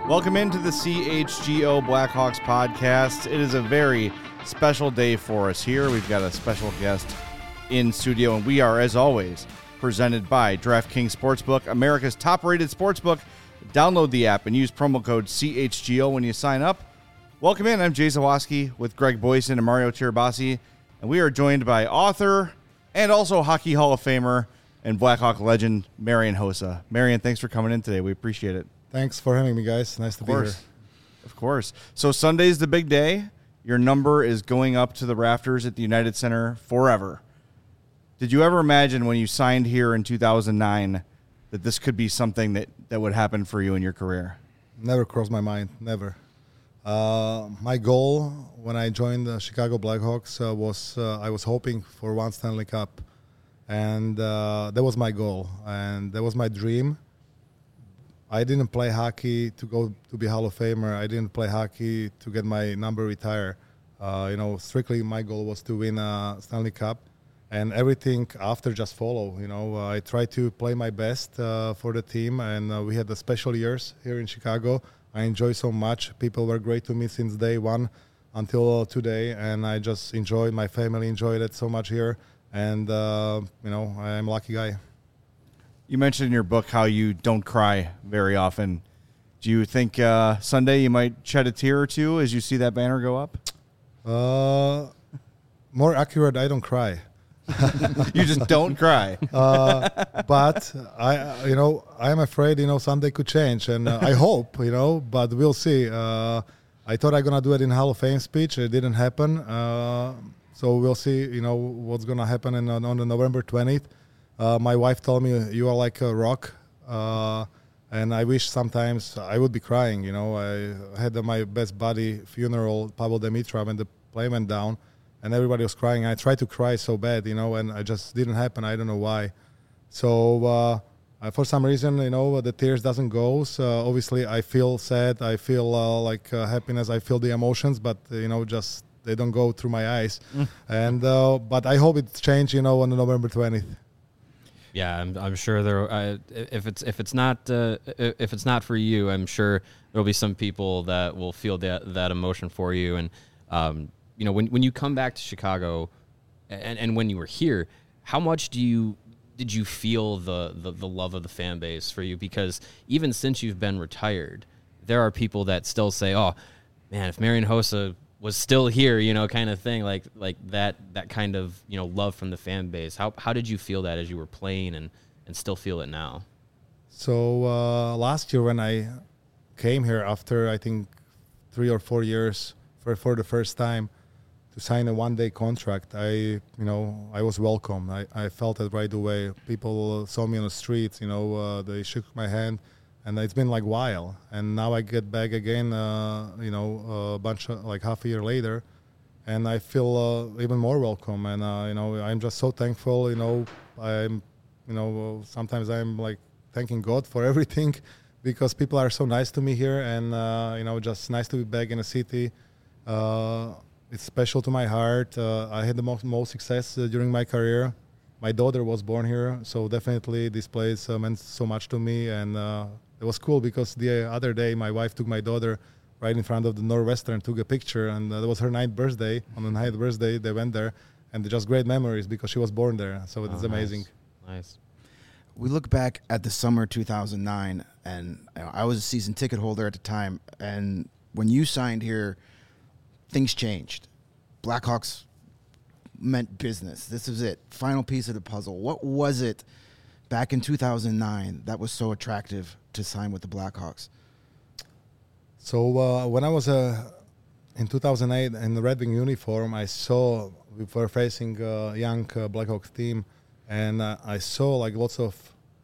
Welcome into the CHGO Blackhawks podcast. It is a very special day for us here. We've got a special guest in studio, and we are, as always, presented by DraftKings Sportsbook, America's top-rated sportsbook. Download the app and use promo code CHGO when you sign up. Welcome in. I'm Jay Zawaski with Greg Boyson and Mario Tirabassi, and we are joined by author and also Hockey Hall of Famer and Blackhawk legend Marian Hossa. Marian, thanks for coming in today. We appreciate it. Thanks for having me, guys. Nice to be here. Of course. So Sunday's the big day. Your number is going up to the rafters at the United Center forever. Did you ever imagine when you signed here in 2009 that this could be something that would happen for you in your career? Never crossed my mind. Never. My goal when I joined the Chicago Blackhawks was I was hoping for one Stanley Cup. And that was my goal. And that was my dream. I didn't play hockey to go to be Hall of Famer. I didn't play hockey to get my number retired. Strictly my goal was to win a Stanley Cup, and everything after just follow. I tried to play my best for the team, and we had the special years here in Chicago. I enjoyed so much. People were great to me since day one until today, and I just enjoyed. My family enjoyed it so much here, and I'm a lucky guy. You mentioned in your book how you don't cry very often. Do you think Sunday you might shed a tear or two as you see that banner go up? More accurate, I don't cry. You just don't cry. But I'm afraid, Sunday could change, and I hope, but we'll see. I thought I'm going to do it in Hall of Fame speech. It didn't happen. So we'll see, what's going to happen on the November 20th. My wife told me you are like a rock, and I wish sometimes I would be crying. I had my best buddy funeral, Pavel Dimitrov, when the plane went down, and everybody was crying. I tried to cry so bad, and it just didn't happen. I don't know why. So for some reason, the tears doesn't go. So obviously, I feel sad. I feel happiness. I feel the emotions, but just they don't go through my eyes. And but I hope it's changed. On the November 20th. Yeah, I'm sure there. If it's not for you, I'm sure there'll be some people that will feel that emotion for you. And when you come back to Chicago, and when you were here, how much did you feel the love of the fan base for you? Because even since you've been retired, there are people that still say, "Oh, man, if Marian Hossa was still here," kind of thing, like that kind of, love from the fan base. How did you feel that as you were playing and still feel it now? So last year when I came here after, I think, 3 or 4 years for the first time to sign a one-day contract, I was welcome. I felt it right away. People saw me on the streets, they shook my hand. And it's been like a while, and now I get back again, a bunch of, half a year later, and I feel even more welcome. And I'm just so thankful. I'm, sometimes I'm like thanking God for everything, because people are so nice to me here, and just nice to be back in a city. It's special to my heart. I had the most success during my career. My daughter was born here, so definitely this place meant so much to me, and. It was cool because the other day my wife took my daughter right in front of the Northwestern, took a picture, and that was her 9th birthday. On the 9th birthday, they went there, and they're just great memories because she was born there. So it's amazing. Nice. We look back at the summer 2009, and I was a season ticket holder at the time, and when you signed here, things changed. Blackhawks meant business. This was it. Final piece of the puzzle. What was it back in 2009 that was so attractive to sign with the Blackhawks? So when I was in 2008 in the Red Wing uniform, I saw we were facing a young Blackhawks team, and I saw lots of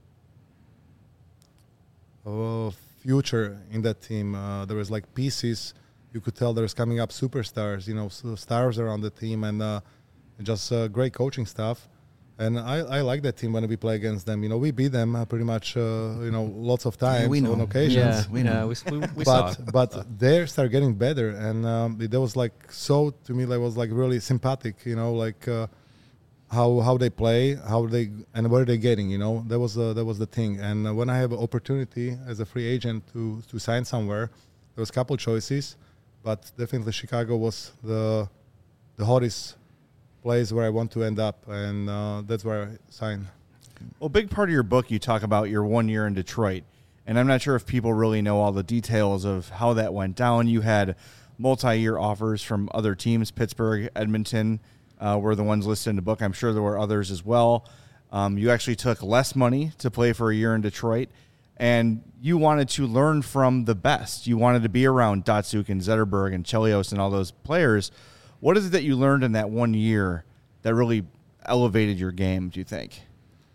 future in that team. There was pieces. You could tell there was coming up superstars, stars around the team, and just great coaching staff. And I like that team when we play against them. We beat them pretty much, lots of times on occasions. Yeah, we know. We saw. But they start getting better, and that was so to me. That was really sympathetic. how they play, and where they're getting. That was the thing. And when I have an opportunity as a free agent to sign somewhere, there was a couple choices, but definitely Chicago was the hottest place where I want to end up, and that's where I signed. Well, a big part of your book, you talk about your 1 year in Detroit, and I'm not sure if people really know all the details of how that went down. You had multi-year offers from other teams, Pittsburgh, Edmonton, were the ones listed in the book. I'm sure there were others as well. You actually took less money to play for a year in Detroit, and you wanted to learn from the best. You wanted to be around Datsyuk and Zetterberg and Chelios and all those players. What is it that you learned in that 1 year that really elevated your game, do you think?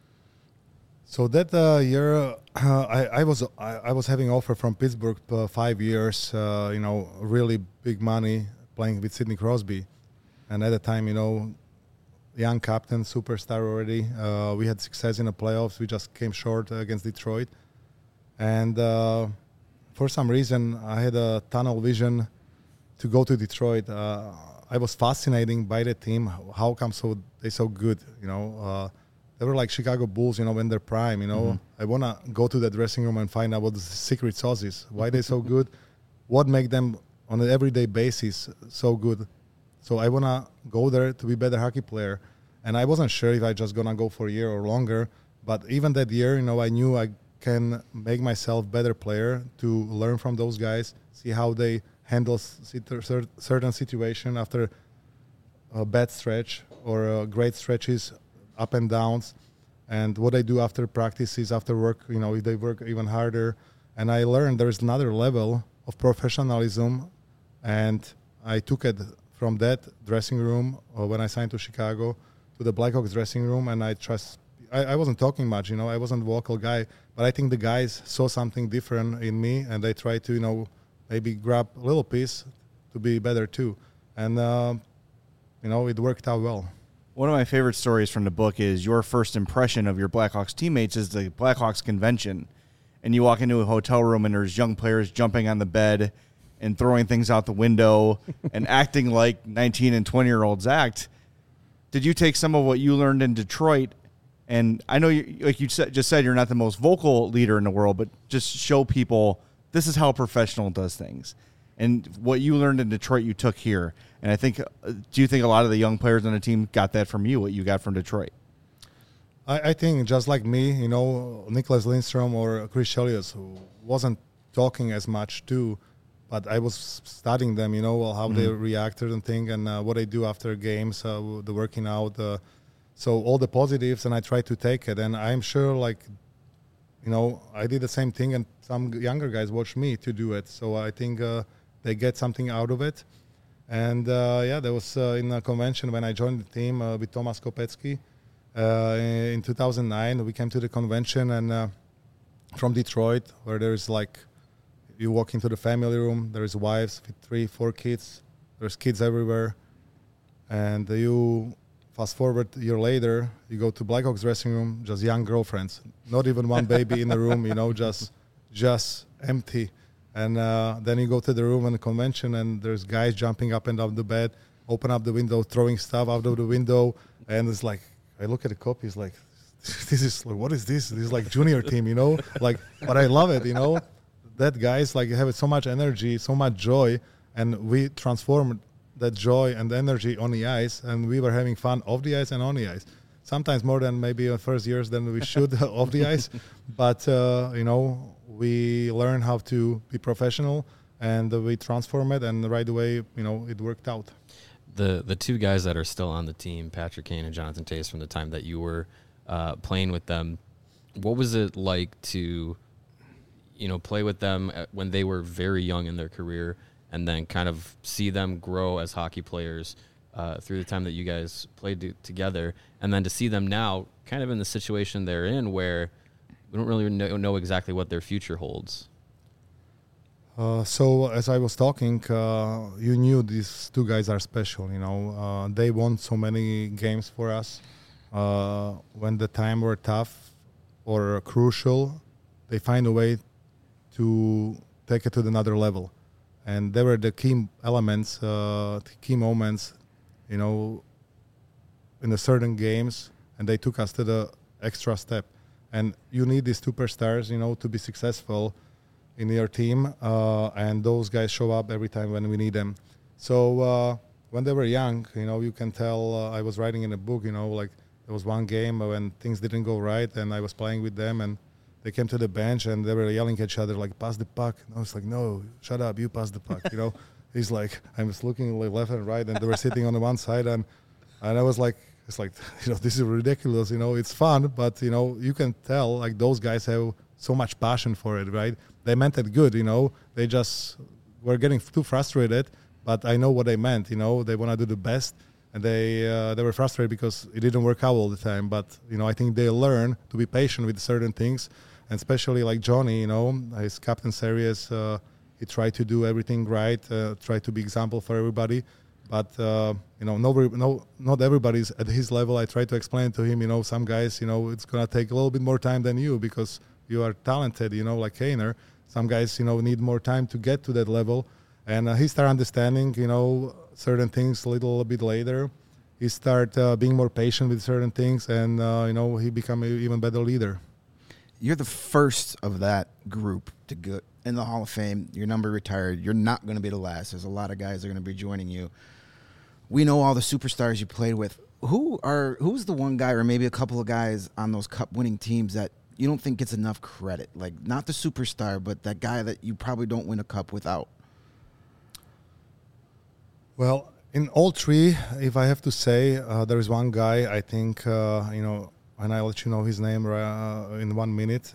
So that year, I was having offer from Pittsburgh 5 years, really big money playing with Sidney Crosby. And at the time, young captain, superstar already. We had success in the playoffs. We just came short against Detroit. And for some reason, I had a tunnel vision to go to Detroit. I was fascinated by the team. How come they so good? They were like Chicago Bulls, when they're prime. Mm-hmm. I want to go to the dressing room and find out what the secret sauce is. Why they so good? What make them on an everyday basis so good? So I want to go there to be a better hockey player. And I wasn't sure if I just going to go for a year or longer. But even that year, I knew I can make myself better player to learn from those guys, see how they handle certain situation after a bad stretch or great stretches, up and downs, and what they do after practices, after work, if they work even harder. And I learned there's another level of professionalism, and I took it from that dressing room when I signed to Chicago to the Blackhawks dressing room, and I wasn't talking much, I wasn't a vocal guy, but I think the guys saw something different in me, and they tried to, maybe grab a little piece to be better too. And, it worked out well. One of my favorite stories from the book is your first impression of your Blackhawks teammates is the Blackhawks convention. And you walk into a hotel room and there's young players jumping on the bed and throwing things out the window and acting like 19 and 20-year-olds act. Did you take some of what you learned in Detroit? And I know, like you just said, you're not the most vocal leader in the world, but just show people this is how a professional does things. And what you learned in Detroit, you took here. And I think, do you think a lot of the young players on the team got that from you, what you got from Detroit? I think just like me, Nicholas Lindstrom or Chris Chelios, who wasn't talking as much too, but I was studying them, how they reacted and thing, and what they do after games, the working out. So all the positives, and I tried to take it. And I'm sure, I did the same thing, and some younger guys watched me to do it. So I think they get something out of it. And, there was in a convention when I joined the team with Tomas Kopecky in 2009. We came to the convention and from Detroit, where there's you walk into the family room, there's wives with 3-4 kids. There's kids everywhere. And you fast forward a year later, you go to Blackhawks dressing room, just young girlfriends. Not even one baby in the room, just empty. And then you go to the room in the convention, and there's guys jumping up and down the bed, open up the window, throwing stuff out of the window. And it's like, I look at the copies like, this is like, what is this? This is like junior team, but I love it, That guys have so much energy, so much joy, and we transformed that joy and energy on the ice, and we were having fun off the ice and on the ice. Sometimes more than maybe in the first years than we should off the ice. But, we learn how to be professional, and we transform it, and right away, it worked out. The two guys that are still on the team, Patrick Kane and Jonathan Toews, from the time that you were playing with them, what was it like to, play with them when they were very young in their career, and then kind of see them grow as hockey players through the time that you guys played together, and then to see them now kind of in the situation they're in where we don't really know exactly what their future holds? So as I was talking, you knew these two guys are special. They won so many games for us. When the time were tough or crucial, they find a way to take it to another level. And they were the key elements, the key moments, in the certain games, and they took us to the extra step. And you need these superstars, to be successful in your team, and those guys show up every time when we need them. So when they were young, you can tell. I was writing in a book, like there was one game when things didn't go right, and I was playing with them, and they came to the bench and they were yelling at each other like, "Pass the puck." And I was like, "No, shut up, you pass the puck." He's like, I was looking like left and right, and they were sitting on the one side, and I was like, it's like, this is ridiculous. It's fun, but you can tell like those guys have so much passion for it, right? They meant it good, They just were getting too frustrated, but I know what they meant. They want to do the best, and they were frustrated because it didn't work out all the time. But I think they learn to be patient with certain things, and especially like Johnny, his captain series. He tried to do everything right, tried to be example for everybody. But, not everybody's at his level. I tried to explain to him, some guys, it's going to take a little bit more time than you because you are talented, like Kaner. Some guys, need more time to get to that level. And he started understanding, certain things a little bit later. He started being more patient with certain things, and, he became an even better leader. You're the first of that group to go in the Hall of Fame. Your number retired. You're not going to be the last. There's a lot of guys that are going to be joining you. We know all the superstars you played with. Who's the one guy or maybe a couple of guys on those cup-winning teams that you don't think gets enough credit? Like, not the superstar, but that guy that you probably don't win a cup without. Well, in all three, if I have to say, there is one guy, I think, and I'll let you know his name in 1 minute.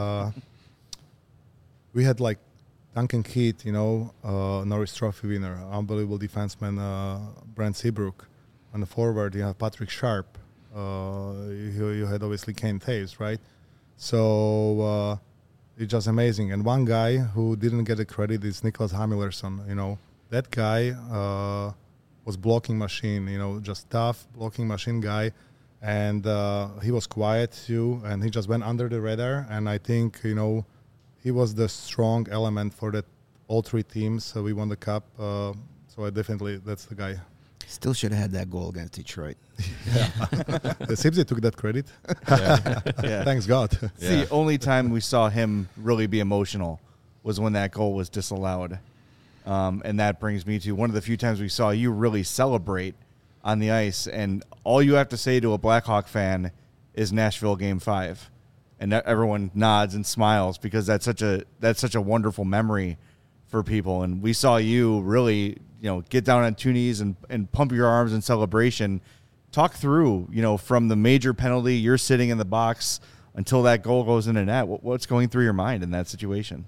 We had like Duncan Keith, Norris Trophy winner, unbelievable defenseman, Brent Seabrook. On the forward, you have Patrick Sharp. You had obviously Kane Taves, right? So it's just amazing. And one guy who didn't get the credit is Niklas Hamilersson. That guy was blocking machine, just tough blocking machine guy. And he was quiet too, and he just went under the radar. And I think, he was the strong element for that all three teams. So we won the cup. So that's the guy. Still should have had that goal against Detroit. Yeah. Sibsy took that credit. Yeah. Thanks God. It's the only time we saw him really be emotional was when that goal was disallowed. And that brings me to one of the few times we saw you really celebrate on the ice. And all you have to say to a Blackhawk fan is Nashville Game 5. And everyone nods and smiles because that's such a wonderful memory for people. And we saw you really, get down on two knees and pump your arms in celebration. Talk through, from the major penalty, you're sitting in the box until that goal goes in the net. What's going through your mind in that situation?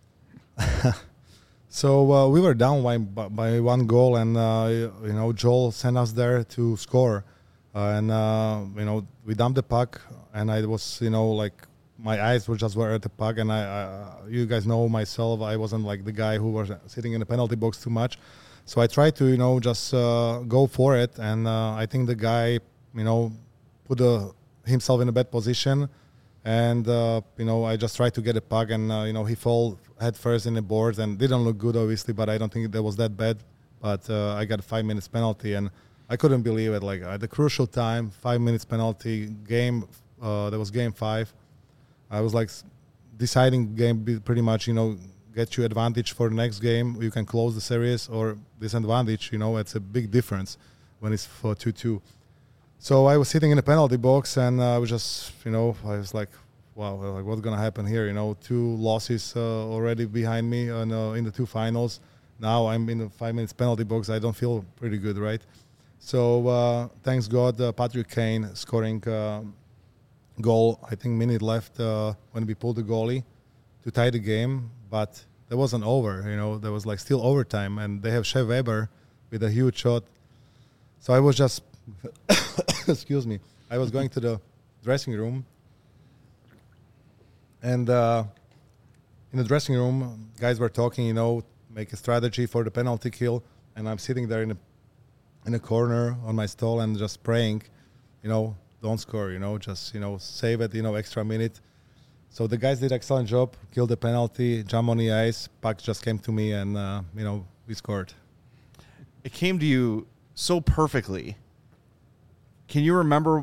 So we were down by one goal, and Joel sent us there to score, and we dumped the puck, and I was my eyes were at the puck, and you guys know myself, I wasn't like the guy who was sitting in the penalty box too much, so I tried to just go for it, and I think the guy put himself in a bad position. And, I just tried to get a puck, and, he fell head first in the boards and didn't look good, obviously, but I don't think that was that bad. But I got a 5 minutes penalty, and I couldn't believe it. Like, at the crucial time, 5 minutes penalty game, that was Game 5. I was, like, deciding game pretty much, get you advantage for the next game. You can close the series or disadvantage, it's a big difference when it's for 2-2. So I was sitting in the penalty box, and I was just, I was like, wow, like what's going to happen here? 2 losses already behind me in the 2 finals. Now I'm in the 5 minutes penalty box. I don't feel pretty good, right? So thanks God, Patrick Kane scoring goal, I think minute left when we pulled the goalie to tie the game. But that wasn't over, there was like still overtime, and they have Shea Weber with a huge shot. So I was just... excuse me, I was going to the dressing room, and in the dressing room, guys were talking, make a strategy for the penalty kill, and I'm sitting there in a corner on my stall and just praying, don't score, just, save it, extra minute. So the guys did an excellent job, killed the penalty, jump on the ice, puck just came to me, and, we scored. It came to you so perfectly. can you remember,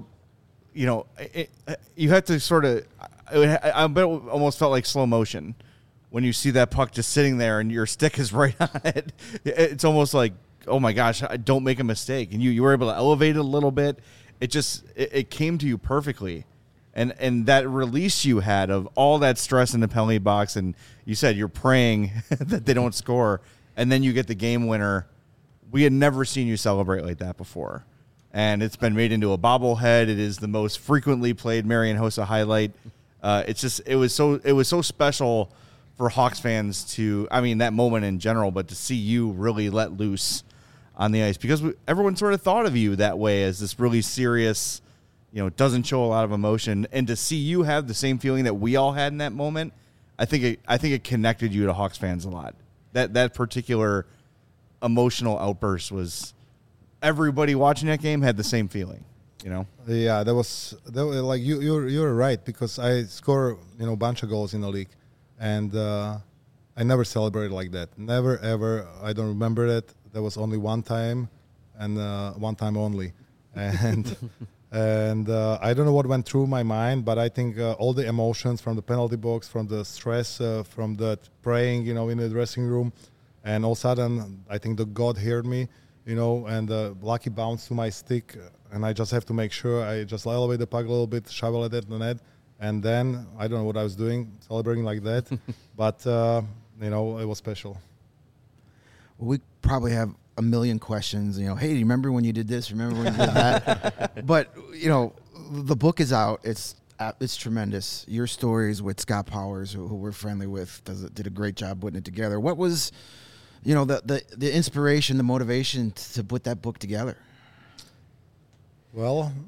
you had to sort of, I bet it almost felt like slow motion when you see that puck just sitting there and your stick is right on it. It's almost like, oh my gosh, don't make a mistake. And you were able to elevate it a little bit. It came to you perfectly. And that release you had of all that stress in the penalty box, and you said you're praying that they don't score, and then you get the game winner. We had never seen you celebrate like that before. And it's been made into a bobblehead. It is the most frequently played Marian Hossa highlight. It was so special for Hawks fans that moment in general, but to see you really let loose on the ice, because everyone sort of thought of you that way as this really serious, doesn't show a lot of emotion, and to see you have the same feeling that we all had in that moment, I think it connected you to Hawks fans a lot. That particular emotional outburst was. Everybody watching that game had the same feeling, Yeah, that was like you're right, because I score a bunch of goals in the league, and I never celebrated like that. Never ever. I don't remember that. There was only one time, and one time only, and and I don't know what went through my mind, but I think all the emotions from the penalty box, from the stress, from the praying, in the dressing room, and all of a sudden I think the God heard me. And lucky bounce to my stick, and I just have to make sure I just elevate the puck a little bit, shovel it at the net, and then I don't know what I was doing, celebrating like that, but it was special. Well, we probably have a million questions. Hey, do you remember when you did this? Remember when you did that? But the book is out. It's tremendous. Your stories with Scott Powers, who we're friendly with, did a great job putting it together. What was the inspiration, the motivation to put that book together? Well,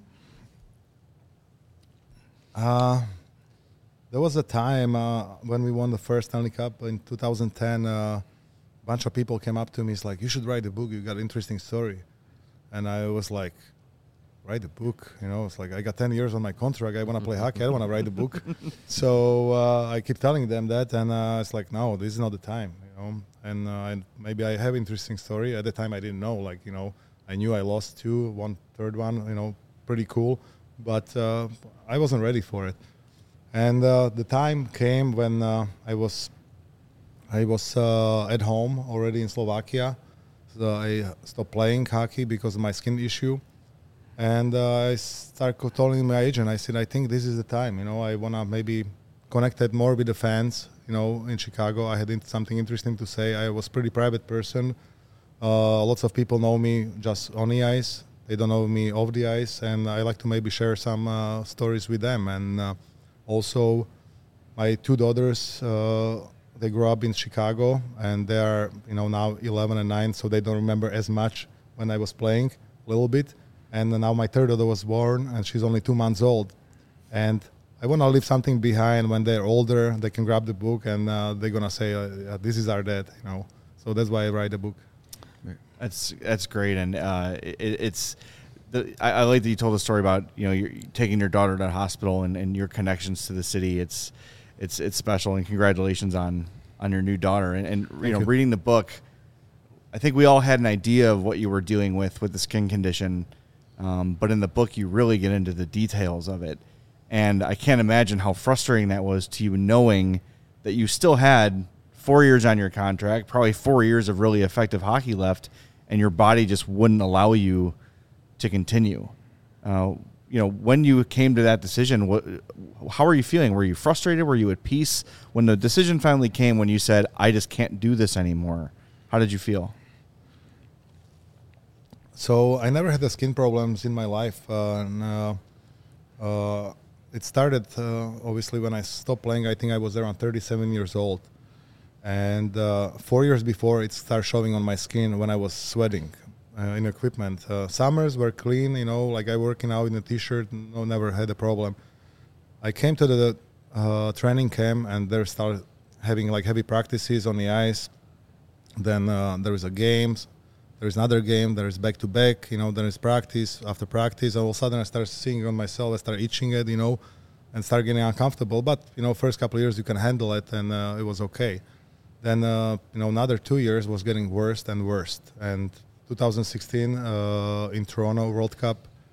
there was a time when we won the first Stanley Cup in 2010. A bunch of people came up to me. It's like, you should write a book. You got an interesting story. And I was like, write a book? It's like, I got 10 years on my contract. I want to play hockey. I don't want to write a book. So I keep telling them that. And it's like, no, this is not the time. And maybe I have interesting story. At the time, I didn't know. I knew I lost 2, 1/3 one. Pretty cool, but I wasn't ready for it. And the time came when I was at home already in Slovakia. So I stopped playing hockey because of my skin issue, and I started telling my agent. I said, I think this is the time. I wanna maybe connect more with the fans. In Chicago, I had something interesting to say. I was a pretty private person. Lots of people know me just on the ice. They don't know me off the ice, and I like to maybe share some stories with them. And also, my 2 daughters, they grew up in Chicago, and they are, now 11 and 9, so they don't remember as much when I was playing, a little bit. And now my 3rd daughter was born, and she's only 2 months old. And I want to leave something behind. When they're older, they can grab the book, and they're going to say, this is our dad, So that's why I write a book. That's great. And I like that you told the story about, you're taking your daughter to the hospital and your connections to the city. It's special, and congratulations on your new daughter. And reading the book, I think we all had an idea of what you were dealing with the skin condition. But in the book, you really get into the details of it. And I can't imagine how frustrating that was to you, knowing that you still had 4 years on your contract, probably 4 years of really effective hockey left, and your body just wouldn't allow you to continue. When you came to that decision, how were you feeling? Were you frustrated? Were you at peace? When the decision finally came, when you said, I just can't do this anymore, how did you feel? So I never had the skin problems in my life. It started, obviously, when I stopped playing. I think I was around 37 years old. And 4 years before, it started showing on my skin when I was sweating in equipment. Summers were clean, like I working out in a T-shirt, never had a problem. I came to the training camp, and they started having heavy practices on the ice. Then there is a games. There is another game. There is back-to-back. There is practice. After practice, all of a sudden I started seeing on myself. I started itching it, and started getting uncomfortable. But, first couple of years you can handle it, and it was okay. Then, another 2 years was getting worse and worse. And 2016 in Toronto World Cup,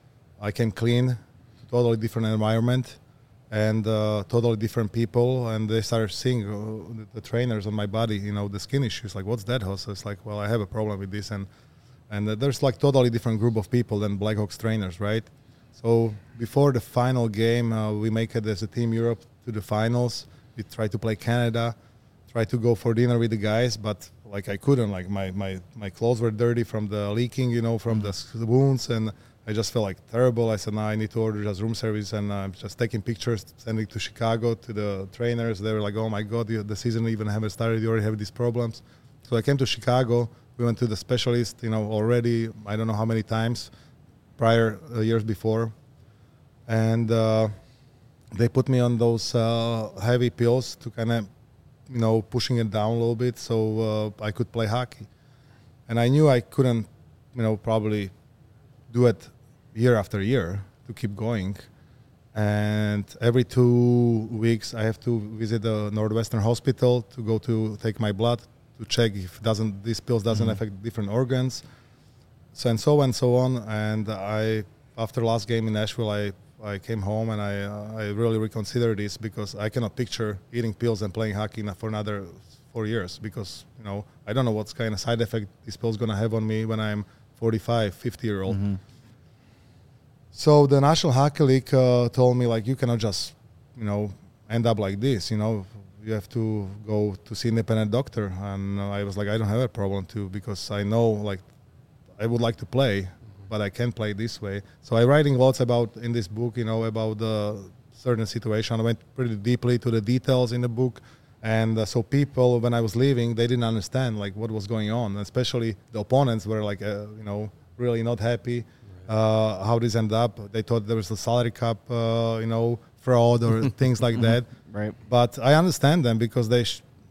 I came clean, totally different environment, and totally different people. And they started seeing the trainers on my body, the skin issues. Like, what's that, Jose? It's like, well, I have a problem with this. And there's like totally different group of people than Blackhawks trainers, right? So before the final game, we make it as a Team Europe to the finals. We try to play Canada, try to go for dinner with the guys, but like I couldn't. Like my clothes were dirty from the leaking, from the wounds, and I just felt like terrible. I said, no, I need to order just room service, and I'm just taking pictures, sending to Chicago to the trainers. They were like, oh my God, the season even haven't started. You already have these problems. So I came to Chicago. We went to the specialist, already, I don't know how many times prior years before. And they put me on those heavy pills to kind of, pushing it down a little bit so I could play hockey. And I knew I couldn't, probably do it year after year to keep going. And every 2 weeks I have to visit the Northwestern Hospital to go to take my blood to check if these pills doesn't affect different organs. So on. And after last game in Nashville, I came home and I really reconsidered this because I cannot picture eating pills and playing hockey for another 4 years because, I don't know what's kind of side effect these pills going to have on me when I'm 45, 50-year-old. Mm-hmm. So the National Hockey League told me, like, you cannot just, end up like this, You have to go to see an independent doctor. And I was like, I don't have a problem too because I know, like, I would like to play, but I can't play this way. So I'm writing lots about, in this book, about the certain situation. I went pretty deeply to the details in the book. And so people, when I was leaving, they didn't understand, like, what was going on. Especially the opponents were, like, really not happy how this ended up. They thought there was a salary cap, fraud or things like that. Right. But I understand them because they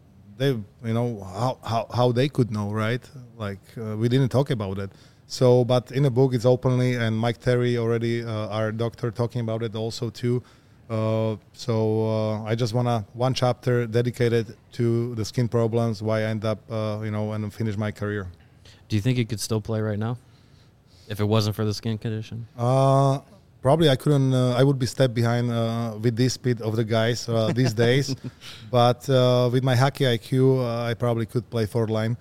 how they could know, right? Like we didn't talk about it. So, but in the book it's openly, and Mike Terry already, our doctor, talking about it also too. I just wanna one chapter dedicated to the skin problems, why I end up, and finish my career. Do you think you could still play right now if it wasn't for the skin condition? Probably I couldn't. I would be step behind with this speed of the guys these days. But with my hockey IQ, I probably could play forward line.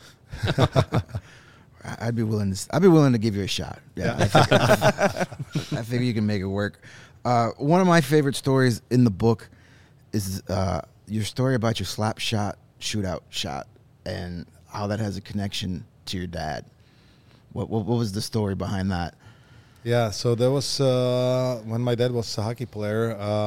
I'd be willing to give you a shot. Yeah, I figure you can make it work. One of my favorite stories in the book is your story about your slap shot shootout shot and how that has a connection to your dad. What was the story behind that? Yeah, so there was, when my dad was a hockey player,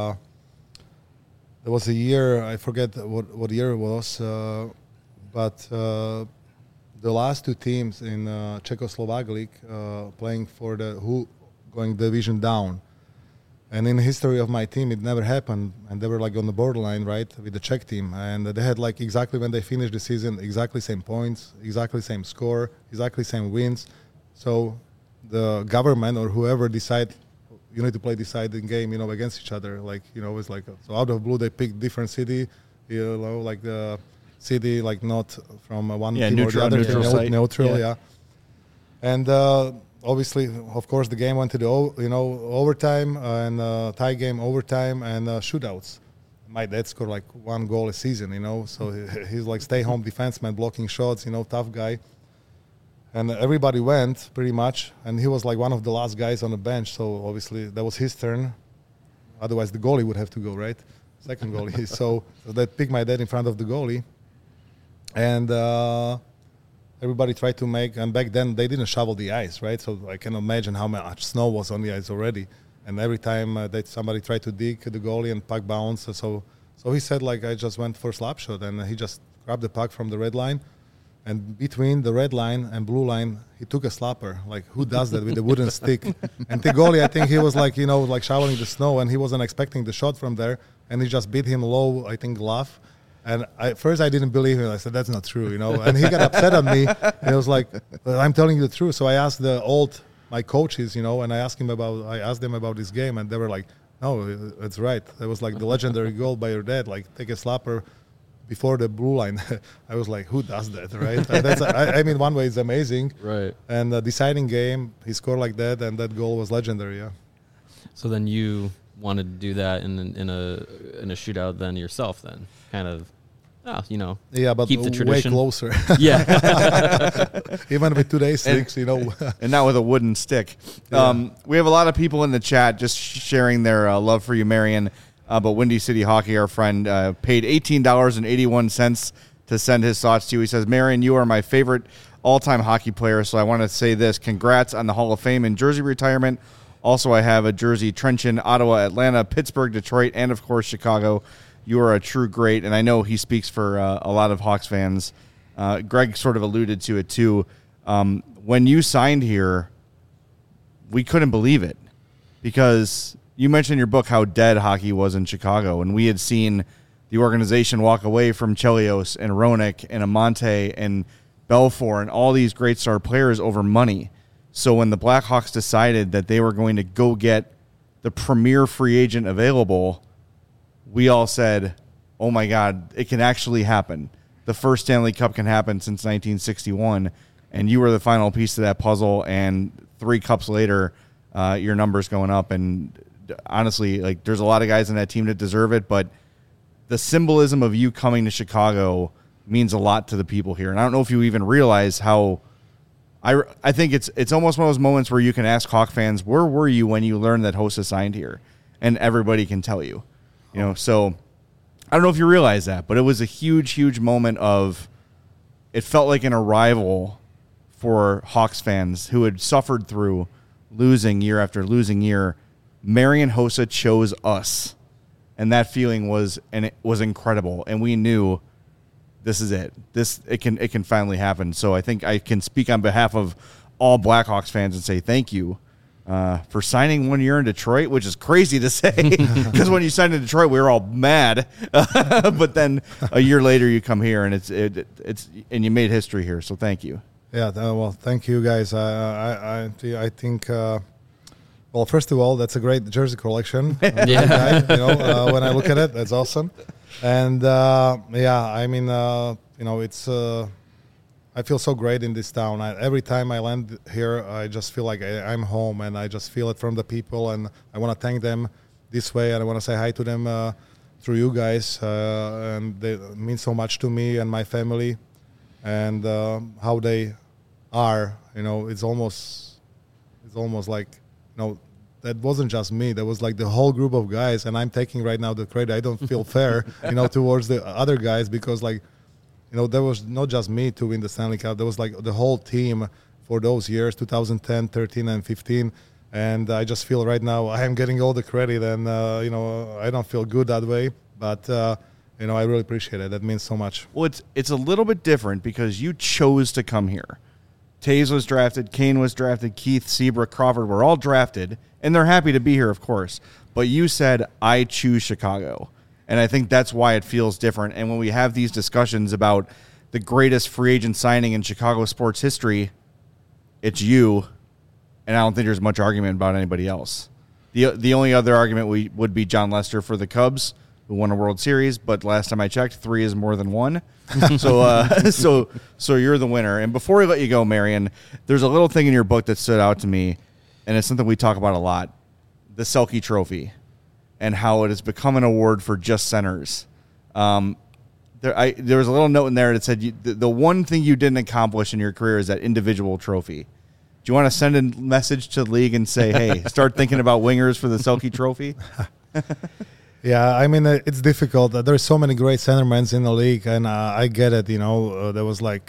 there was a year, I forget what year it was, but the last two teams in Czechoslovak League playing for going division down. And in the history of my team, it never happened. And they were like on the borderline, right, with the Czech team. And they had like exactly when they finished the season, exactly same points, exactly same score, exactly same wins. So the government or whoever decide you need to play deciding game, against each other. Like, it's like, so out of blue, they pick different city, like the city, like not from one team neutral, or the other. Neutral site. Neutral, yeah. And obviously, of course, the game went to the, overtime and tie game, overtime and shootouts. My dad scored like 1 goal a season, so he's like stay-home defenseman, blocking shots, tough guy. And everybody went pretty much, and he was like one of the last guys on the bench. So obviously that was his turn. Otherwise the goalie would have to go, right? Second goalie. So they picked my dad in front of the goalie, and everybody tried to make. And back then they didn't shovel the ice, right? So I can imagine how much snow was on the ice already. And every time that somebody tried to dig the goalie and puck bounced, so he said like I just went for a slap shot, and he just grabbed the puck from the red line. And between the red line and blue line, he took a slapper. Like, who does that with a wooden stick? And the goalie, I think he was like, like shoveling the snow, and he wasn't expecting the shot from there. And he just beat him low, I think, glove. And first I didn't believe him. I said, that's not true, And he got upset at me. And he was like, I'm telling you the truth. So I asked my coaches, and I asked them about this game. And they were like, no, it's right. It was like the legendary goal by your dad, like take a slapper before the blue line. I was like, who does that, right? I mean, one way it's amazing. Right. And the deciding game, he scored like that, and that goal was legendary, yeah. So then you wanted to do that in a shootout then yourself then, kind of, Yeah, but keep the way tradition. closer. Yeah. Even with today's sticks, And not with a wooden stick. Yeah. We have a lot of people in the chat just sharing their love for you, Marion. But Windy City Hockey, our friend, paid $18.81 to send his thoughts to you. He says, Marion, you are my favorite all-time hockey player, so I want to say this. Congrats on the Hall of Fame and jersey retirement. Also, I have a jersey Trenton, Ottawa, Atlanta, Pittsburgh, Detroit, and, of course, Chicago. You are a true great, and I know he speaks for a lot of Hawks fans. Greg sort of alluded to it, too. When you signed here, we couldn't believe it because you mentioned in your book how dead hockey was in Chicago, and we had seen the organization walk away from Chelios and Roenick and Amante and Belfour and all these great star players over money. So when the Blackhawks decided that they were going to go get the premier free agent available, we all said, oh, my God, it can actually happen. The first Stanley Cup can happen since 1961, and you were the final piece of that puzzle, and 3 cups later, your number's going up. And honestly, like, there's a lot of guys in that team that deserve it, but the symbolism of you coming to Chicago means a lot to the people here. And I don't know if you even realize how I think it's almost one of those moments where you can ask Hawk fans, where were you when you learned that Hossa signed here? And everybody can tell you. So I don't know if you realize that, but it was a huge, huge moment of it felt like an arrival for Hawks fans who had suffered through losing year after losing year. Marian Hossa chose us, and that feeling was incredible, and we knew this is it. It can finally happen. So I think I can speak on behalf of all Blackhawks fans and say thank you for signing 1 year in Detroit, which is crazy to say because when you signed in Detroit, we were all mad. But then a year later, you come here and it's and you made history here. So thank you. Yeah, well, thank you guys. I think. Well, first of all, that's a great jersey collection. Yeah. When I look at it, that's awesome. And I mean, it's. I feel so great in this town. Every time I land here, I just feel like I'm home, and I just feel it from the people. And I want to thank them this way, and I want to say hi to them through you guys. And they mean so much to me and my family, and how they are. It's almost like that wasn't just me. That was like the whole group of guys, and I'm taking right now the credit. I don't feel fair, towards the other guys because there was not just me to win the Stanley Cup. There was like the whole team for those years, 2010, 13, and 15. And I just feel right now I am getting all the credit, and I don't feel good that way. But I really appreciate it. That means so much. Well, it's a little bit different because you chose to come here. Taves was drafted, Kane was drafted, Keith, Seabrook, Crawford were all drafted, and they're happy to be here, of course. But you said, I choose Chicago. And I think that's why it feels different. And when we have these discussions about the greatest free agent signing in Chicago sports history, it's you, and I don't think there's much argument about anybody else. The only other argument would be John Lester for the Cubs, who won a World Series, but last time I checked, 3 is more than 1. So you're the winner. And before we let you go, Marion, there's a little thing in your book that stood out to me, and it's something we talk about a lot, the Selke Trophy, and how it has become an award for just centers. There was a little note in there that said the one thing you didn't accomplish in your career is that individual trophy. Do you want to send a message to the league and say, hey, start thinking about wingers for the Selke Trophy? Yeah, I mean, it's difficult. There's so many great centermen in the league, and I get it. There was like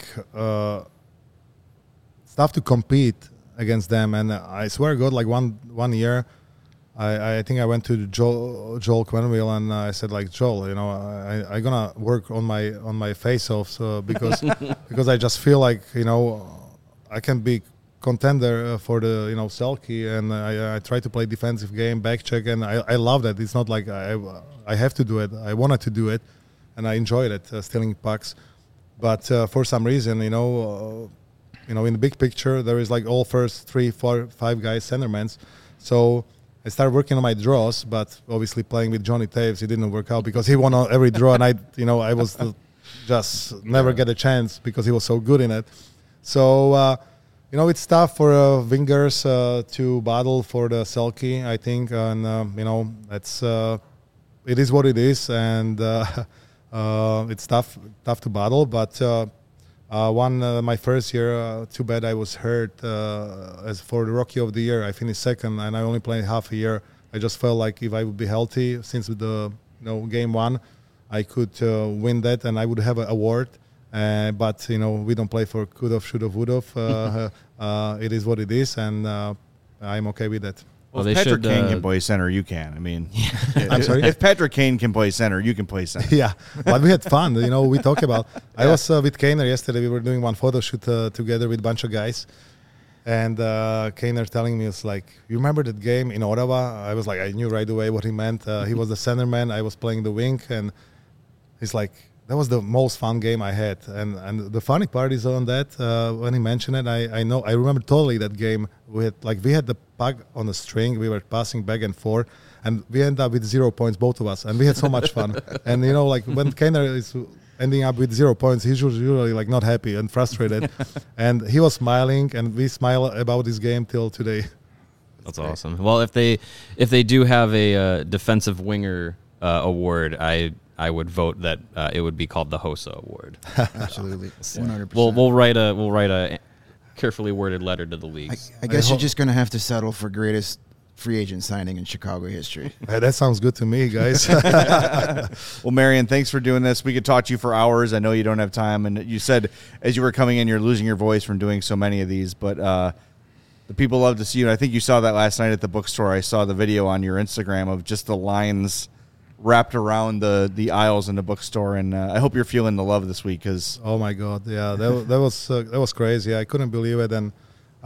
stuff to compete against them, and I swear to God, like one year, I think I went to Joel Quenneville and I said, like, Joel, I'm gonna work on my face-offs because I just feel like I can be contender for the Selke, and I try to play defensive game, back check, and I love that. It's not like I have to do it. I wanted to do it, and I enjoyed it, stealing pucks. But for some reason, in the big picture, there is like all first 3, 4, 5 guys centermen. So I started working on my draws, but obviously playing with Johnny Taves, it didn't work out because he won on every draw, and I was just never get a chance because he was so good in it. So it's tough for wingers to battle for the Selke, I think, and it's it is what it is, and it's tough to battle. But my first year, too bad I was hurt. As for the Rookie of the Year, I finished second, and I only played half a year. I just felt like if I would be healthy, since the game one, I could win that, and I would have an award. But we don't play for could've, should've, would've. It is what it is, and I'm okay with that. Well, if Patrick Kane can play center, you can. I mean, I'm sorry? If Patrick Kane can play center, you can play center. Yeah, but we had fun. We talk about. I was with Kaner yesterday. We were doing one photo shoot together with a bunch of guys, and Kaner telling me, it's like, you remember that game in Ottawa? I was like, I knew right away what he meant. He was the center man. I was playing the wing, and he's like, that was the most fun game I had. And the funny part is on that, when he mentioned it, I remember totally that game. We had the puck on the string. We were passing back and forth, and we ended up with 0 points, both of us. And we had so much fun. And, when Kaner is ending up with 0 points, he's usually not happy and frustrated. And he was smiling, and we smile about this game till today. That's awesome. Well, if they do have a defensive winger award, I would vote that it would be called the Hossa Award. Absolutely, 100%. We'll write a carefully worded letter to the leagues. I guess you're just going to have to settle for greatest free agent signing in Chicago history. That sounds good to me, guys. Well, Marian, thanks for doing this. We could talk to you for hours. I know you don't have time, and you said as you were coming in, you're losing your voice from doing so many of these, but the people love to see you. And I think you saw that last night at the bookstore. I saw the video on your Instagram of just the lines wrapped around the aisles in the bookstore, and I hope you're feeling the love this week. Cause oh my God, yeah, that was crazy. I couldn't believe it, and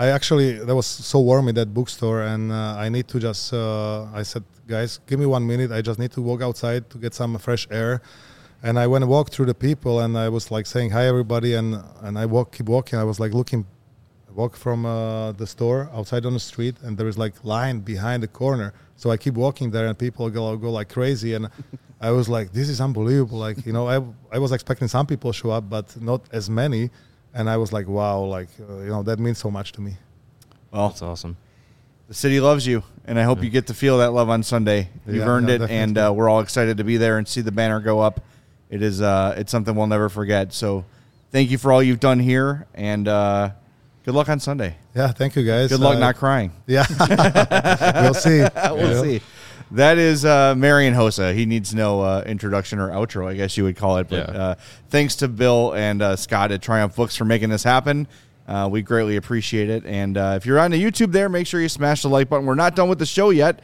that was so warm in that bookstore, and I need to just I said, guys, give me 1 minute. I just need to walk outside to get some fresh air. And I went and walked through the people, and I was like saying hi everybody, and I keep walking. I was like walk from the store outside on the street, and there is line behind the corner. So I keep walking there, and people go like crazy, and I was like, this is unbelievable. I was expecting some people to show up, but not as many, and I was like, wow, that means so much to me. Well, that's awesome. The city loves you, and I hope you get to feel that love on Sunday. You've earned it, definitely. And we're all excited to be there and see the banner go up. It is it's something we'll never forget. So thank you for all you've done here, and good luck on Sunday. Yeah, thank you, guys. Good luck not crying. Yeah. We'll see. We'll see. That is Marian Hossa. He needs no introduction or outro, I guess you would call it. But thanks to Bill and Scott at Triumph Books for making this happen. We greatly appreciate it. And if you're on the YouTube there, make sure you smash the like button. We're not done with the show yet,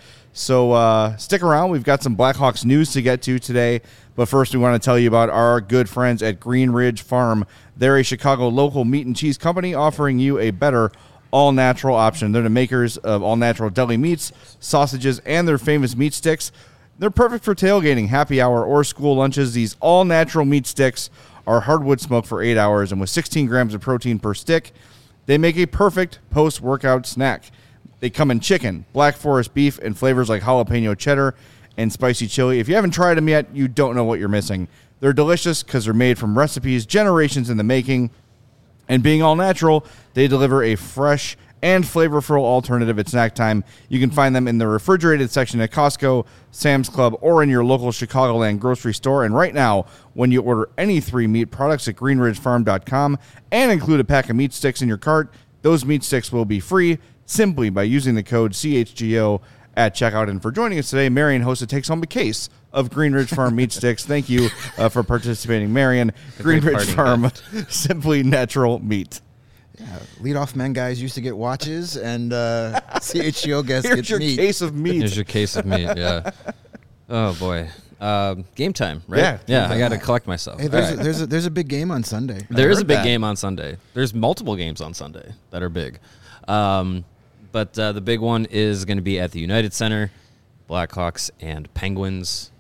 so stick around. We've got some Blackhawks news to get to today. But first, we want to tell you about our good friends at Green Ridge Farm. They're a Chicago local meat and cheese company offering you a better all-natural option. They're the makers of all-natural deli meats, sausages, and their famous meat sticks. They're perfect for tailgating, happy hour, or school lunches. These all-natural meat sticks are hardwood smoked for 8 hours, and with 16 grams of protein per stick, they make a perfect post-workout snack. They come in chicken, Black Forest beef, and flavors like jalapeno cheddar and spicy chili. If you haven't tried them yet, you don't know what you're missing. They're delicious because they're made from recipes generations in the making. And being all natural, they deliver a fresh and flavorful alternative at snack time. You can find them in the refrigerated section at Costco, Sam's Club, or in your local Chicagoland grocery store. And right now, when you order any 3 meat products at greenridgefarm.com and include a pack of meat sticks in your cart, those meat sticks will be free simply by using the code CHGO at checkout. And for joining us today, Marian Hossa takes home a case of Green Ridge Farm meat sticks. Thank you for participating, Marian. Green Ridge Farm, simply natural meat. Yeah, leadoff men guys used to get watches, and CHGO guests get your meat. Case of meat. Here's your case of meat. Yeah. Oh boy. Game time, right? Yeah. I got to collect myself. Hey, there's a big game on Sunday. There is a big game on Sunday. There's multiple games on Sunday that are big. But the big one is going to be at the United Center, Blackhawks and Penguins.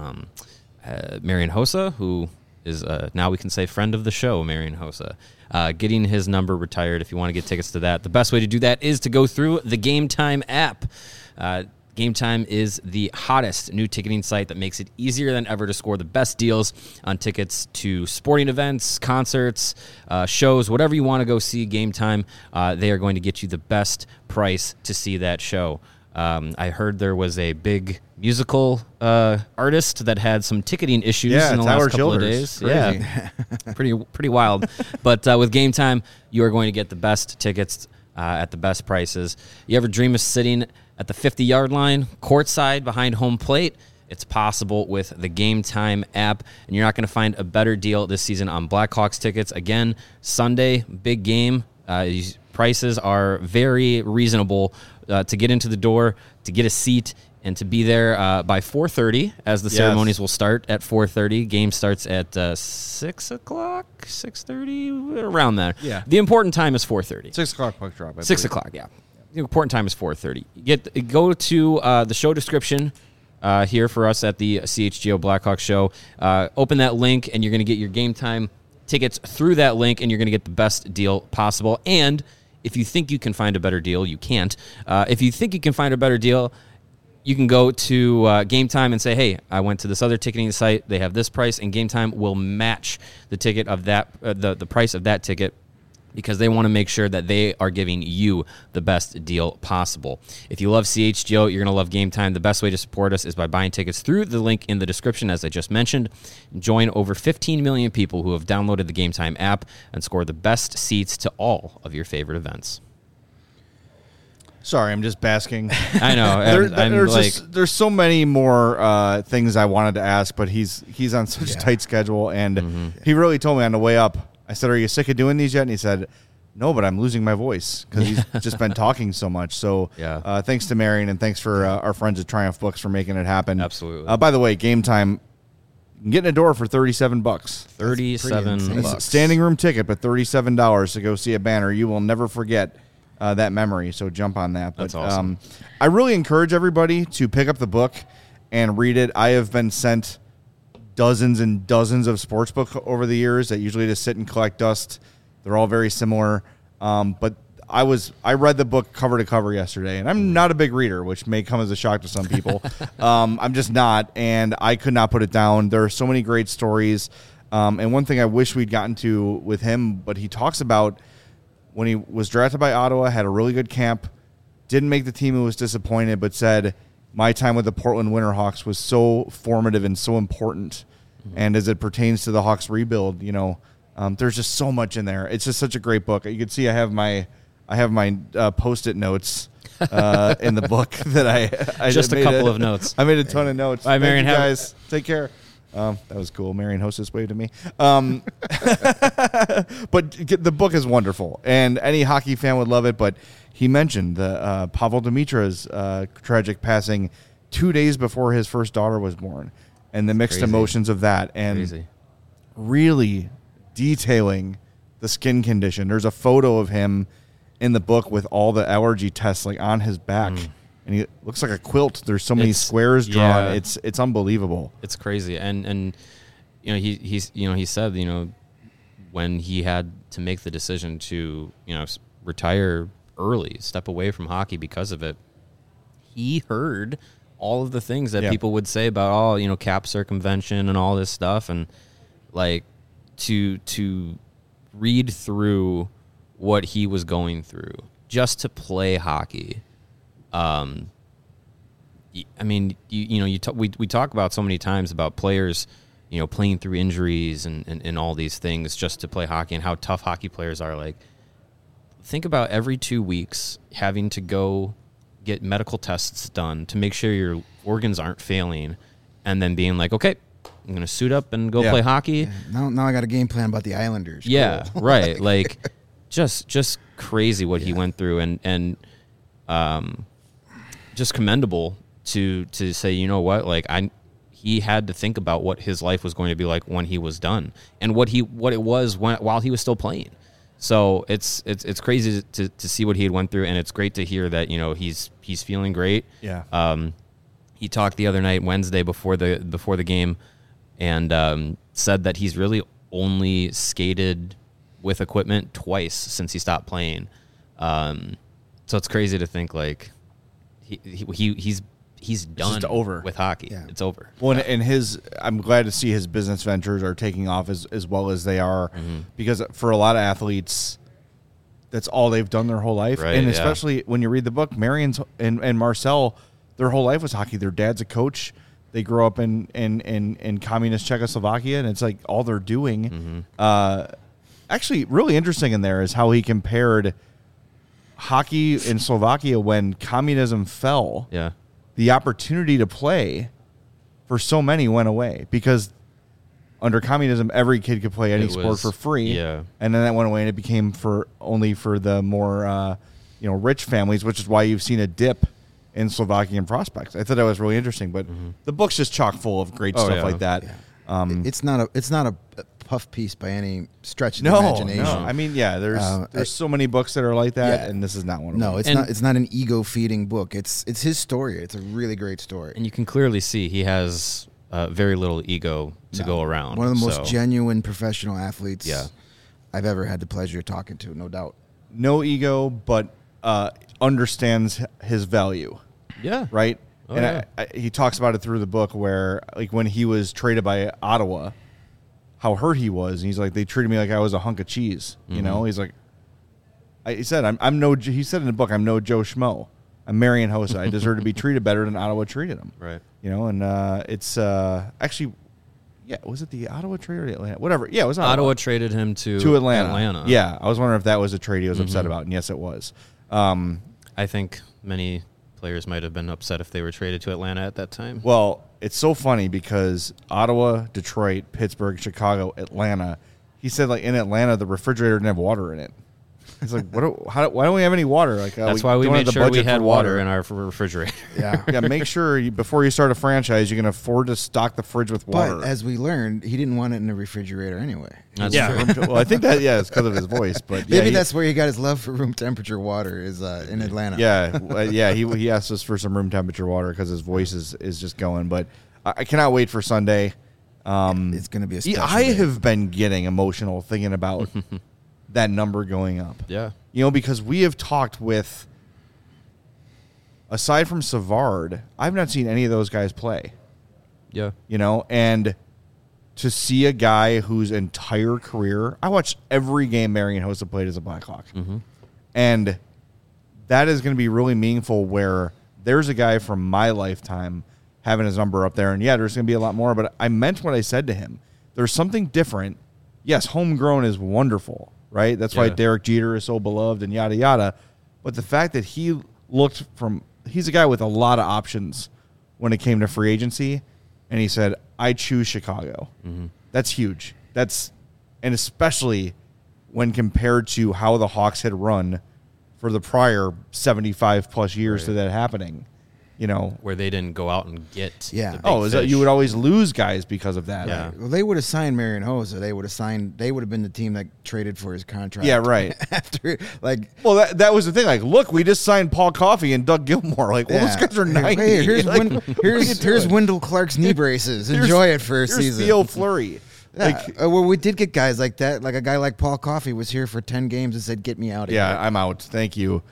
Marian Hossa, who is now we can say friend of the show, Marian Hossa, getting his number retired. If you want to get tickets to that, the best way to do that is to go through the Game Time app. Game Time is the hottest new ticketing site that makes it easier than ever to score the best deals on tickets to sporting events, concerts, shows, whatever you want to go see. Game Time, they are going to get you the best price to see that show. I heard there was a big musical artist that had some ticketing issues in the Tyler last couple of Childers. days. Yeah, pretty wild. But with Game Time, you are going to get the best tickets at the best prices. You ever dream of sitting at the 50-yard line, courtside behind home plate? It's possible with the Game Time app, and you're not going to find a better deal this season on Blackhawks tickets. Again, Sunday, big game. Prices are very reasonable to get into the door, to get a seat, and to be there by 4:30, as the ceremonies will start at 4:30. Game starts at 6 o'clock, 6:30, around there. Yeah. The important time is 4:30. 6 o'clock puck drop. 6 o'clock, yeah. The important time is 4:30. Go to the show description here for us at the CHGO Blackhawks show. Open that link, and you're going to get your Game Time tickets through that link, and you're going to get the best deal possible. And if you think you can find a better deal, you can't. If you think you can find a better deal, you can go to Game Time and say, hey, I went to this other ticketing site. They have this price, and Game Time will match the ticket of that, the price of that ticket, because they want to make sure that they are giving you the best deal possible. If you love CHGO, you're going to love Game Time. The best way to support us is by buying tickets through the link in the description, as I just mentioned. Join over 15 million people who have downloaded the Game Time app and score the best seats to all of your favorite events. Sorry, I'm just basking. I know. There's so many more things I wanted to ask, but he's on such a tight schedule, and he really told me on the way up. I said, "Are you sick of doing these yet?" And he said, "No, but I'm losing my voice because he's just been talking so much." So, thanks to Marion, and thanks for our friends at Triumph Books for making it happen. Absolutely. By the way, Game Time, you can get in a door for $37. $37. Standing room ticket, but $37 to go see a banner. You will never forget that memory. So jump on that. That's awesome. I really encourage everybody to pick up the book and read it. I have been sent dozens and dozens of sports books over the years that usually just sit and collect dust. They're all very similar. But I read the book cover to cover yesterday, and I'm not a big reader, which may come as a shock to some people. I'm just not, and I could not put it down. There are so many great stories. And one thing I wish we'd gotten to with him, but he talks about when he was drafted by Ottawa, had a really good camp, didn't make the team and was disappointed, but said, my time with the Portland Winterhawks was so formative and so important. Mm-hmm. And as it pertains to the Hawks rebuild, there's just so much in there. It's just such a great book. You can see I have my Post-it notes in the book that I just a couple of notes. I made a ton of notes. Bye, Marion. Thank you guys. Take care. That was cool. Marion Hostess waved to me. But the book is wonderful, and any hockey fan would love it. But he mentioned the Pavel Dimitra's tragic passing 2 days before his first daughter was born, and the mixed emotions of that, and really detailing the skin condition. There's a photo of him in the book with all the allergy tests on his back. And he looks like a quilt. There's so many squares drawn. Yeah. It's unbelievable. It's crazy. And he said, when he had to make the decision to, retire early, step away from hockey because of it, he heard all of the things that people would say about cap circumvention and all this stuff, and to read through what he was going through just to play hockey. We talk about so many times about players, playing through injuries and all these things just to play hockey, and how tough hockey players are. Think about every 2 weeks having to go get medical tests done to make sure your organs aren't failing, and then being like, okay, I'm going to suit up and go play hockey. Yeah. Now I got a game plan about the Islanders. Yeah, cool. Right. Just crazy what he went through, and just commendable to say, he had to think about what his life was going to be like when he was done, and what it was while he was still playing. So it's crazy to see what he had went through, and it's great to hear that he's feeling great. Yeah. He talked the other night, Wednesday, before the game, and said that he's really only skated with equipment twice since he stopped playing. So it's crazy to think he's he's done just over. with hockey. Yeah. It's over. Well, and I'm glad to see his business ventures are taking off as well as they are, because for a lot of athletes, that's all they've done their whole life. Right, and yeah. especially when you read the book, Marion's and Marcel, their whole life was hockey. Their dad's a coach. They grew up in communist Czechoslovakia, and it's like all they're doing. Actually, really interesting in there is how he compared hockey in Slovakia when communism fell. Yeah. The opportunity to play for so many went away because under communism, every kid could play any It sport was- for free. yeah. And then that went away and it became only for the more, rich families, which is why you've seen a dip in Slovakian prospects. I thought that was really interesting, but the book's just chock full of great Oh, stuff yeah. like that. It's not a puff piece by any stretch of the No, imagination. no. I mean, yeah, there's so many books that are like that, Yeah. and this is not one of No, them. it's not an ego feeding book. It's his story. It's a really great story. And you can clearly see he has very little ego to go around. One of the most So, genuine professional athletes Yeah. I've ever had the pleasure of talking to, no doubt. No ego, but understands his value. Yeah. Right? Oh, and yeah. he talks about it through the book where, like, when he was traded by Ottawa, how hurt he was. And he's like, they treated me like I was a hunk of cheese. You know? He's like, he said, he said in the book, I'm no Joe Schmo. I'm Marian Hossa. I deserve to be treated better than Ottawa treated him. Right. You know, and it's actually, yeah, was it the Ottawa trade or the Atlanta? Whatever. Yeah, it was Ottawa traded him to Atlanta. Yeah, I was wondering if that was a trade he was upset about, and yes, it was. I think many players might have been upset if they were traded to Atlanta at that time. Well, it's so funny because Ottawa, Detroit, Pittsburgh, Chicago, Atlanta. He said, like, in Atlanta, the refrigerator didn't have water in it. He's like, why don't we have any water? Like, That's why we don't have made the sure we budget had for water in our refrigerator. Yeah. Yeah, make sure before you start a franchise, you can afford to stock the fridge with water. But as we learned, he didn't want it in the refrigerator anyway. That's yeah, true. well, I think that it's because of his voice, but yeah, Maybe that's where he got his love for room temperature water is in Atlanta. yeah. He asked us for some room temperature water because his voice is just going. But I cannot wait for Sunday. It's going to be a special I day. have been getting emotional thinking about that number going up. Yeah. You know, because we have talked with, aside from Savard, I've not seen any of those guys play. Yeah. You know, and to see a guy whose entire career, I watched every game Marian Hossa played as a Blackhawk. And that is going to be really meaningful where there's a guy from my lifetime having his number up there. And yeah, there's going to be a lot more, but I meant what I said to him. There's something different. Yes, homegrown is wonderful, right? That's why Yeah. Derek Jeter is so beloved and yada, yada. But the fact that he's a guy with a lot of options when it came to free agency. And he said, I choose Chicago. That's huge. And especially when compared to how the Hawks had run for the prior 75 plus years to that happening, you know. Where they didn't go out and get. Yeah. the big Oh, is that fish. you would always lose guys because of that. Yeah. Well, they would have signed Marian Hossa. They would have been the team that traded for his contract. Yeah, right. After, like, Well, that was the thing. Like, look, we just signed Paul Coffey and Doug Gilmore. Like, well, those guys are 90. Hey, here's Like, here's Wendell Clark's knee braces. Enjoy it for a here's season. Theo Fleury. Yeah. Like, Well, we did get guys like that. Like a guy like Paul Coffey was here for 10 games and said, "Get me out of yeah, here." I'm out. Thank you.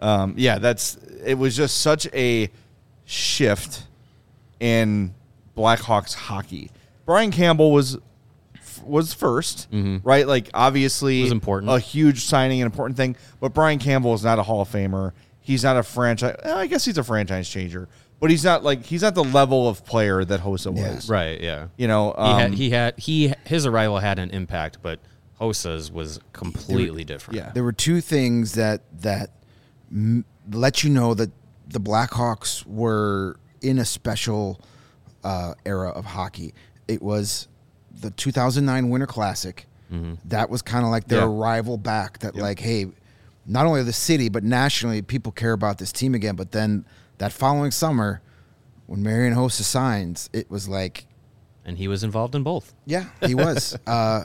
It was just such a shift in Blackhawks hockey. Brian Campbell was first, right? Like, obviously, It was important. a huge signing, an important thing. But Brian Campbell is not a Hall of Famer. He's not a franchise. I guess he's a franchise changer, but he's not the level of player that Hossa was. Right. Yeah. You know, His arrival had an impact, but Hossa's was completely different. yeah. There were two things that let you know that the Blackhawks were in a special era of hockey. It was the 2009 Winter Classic. That was kind of like their Yeah. arrival back. That like, hey, not only the city but nationally, people care about this team again. But then that following summer, when Marian Hossa signs, it was like, And he was involved in both. yeah, he was.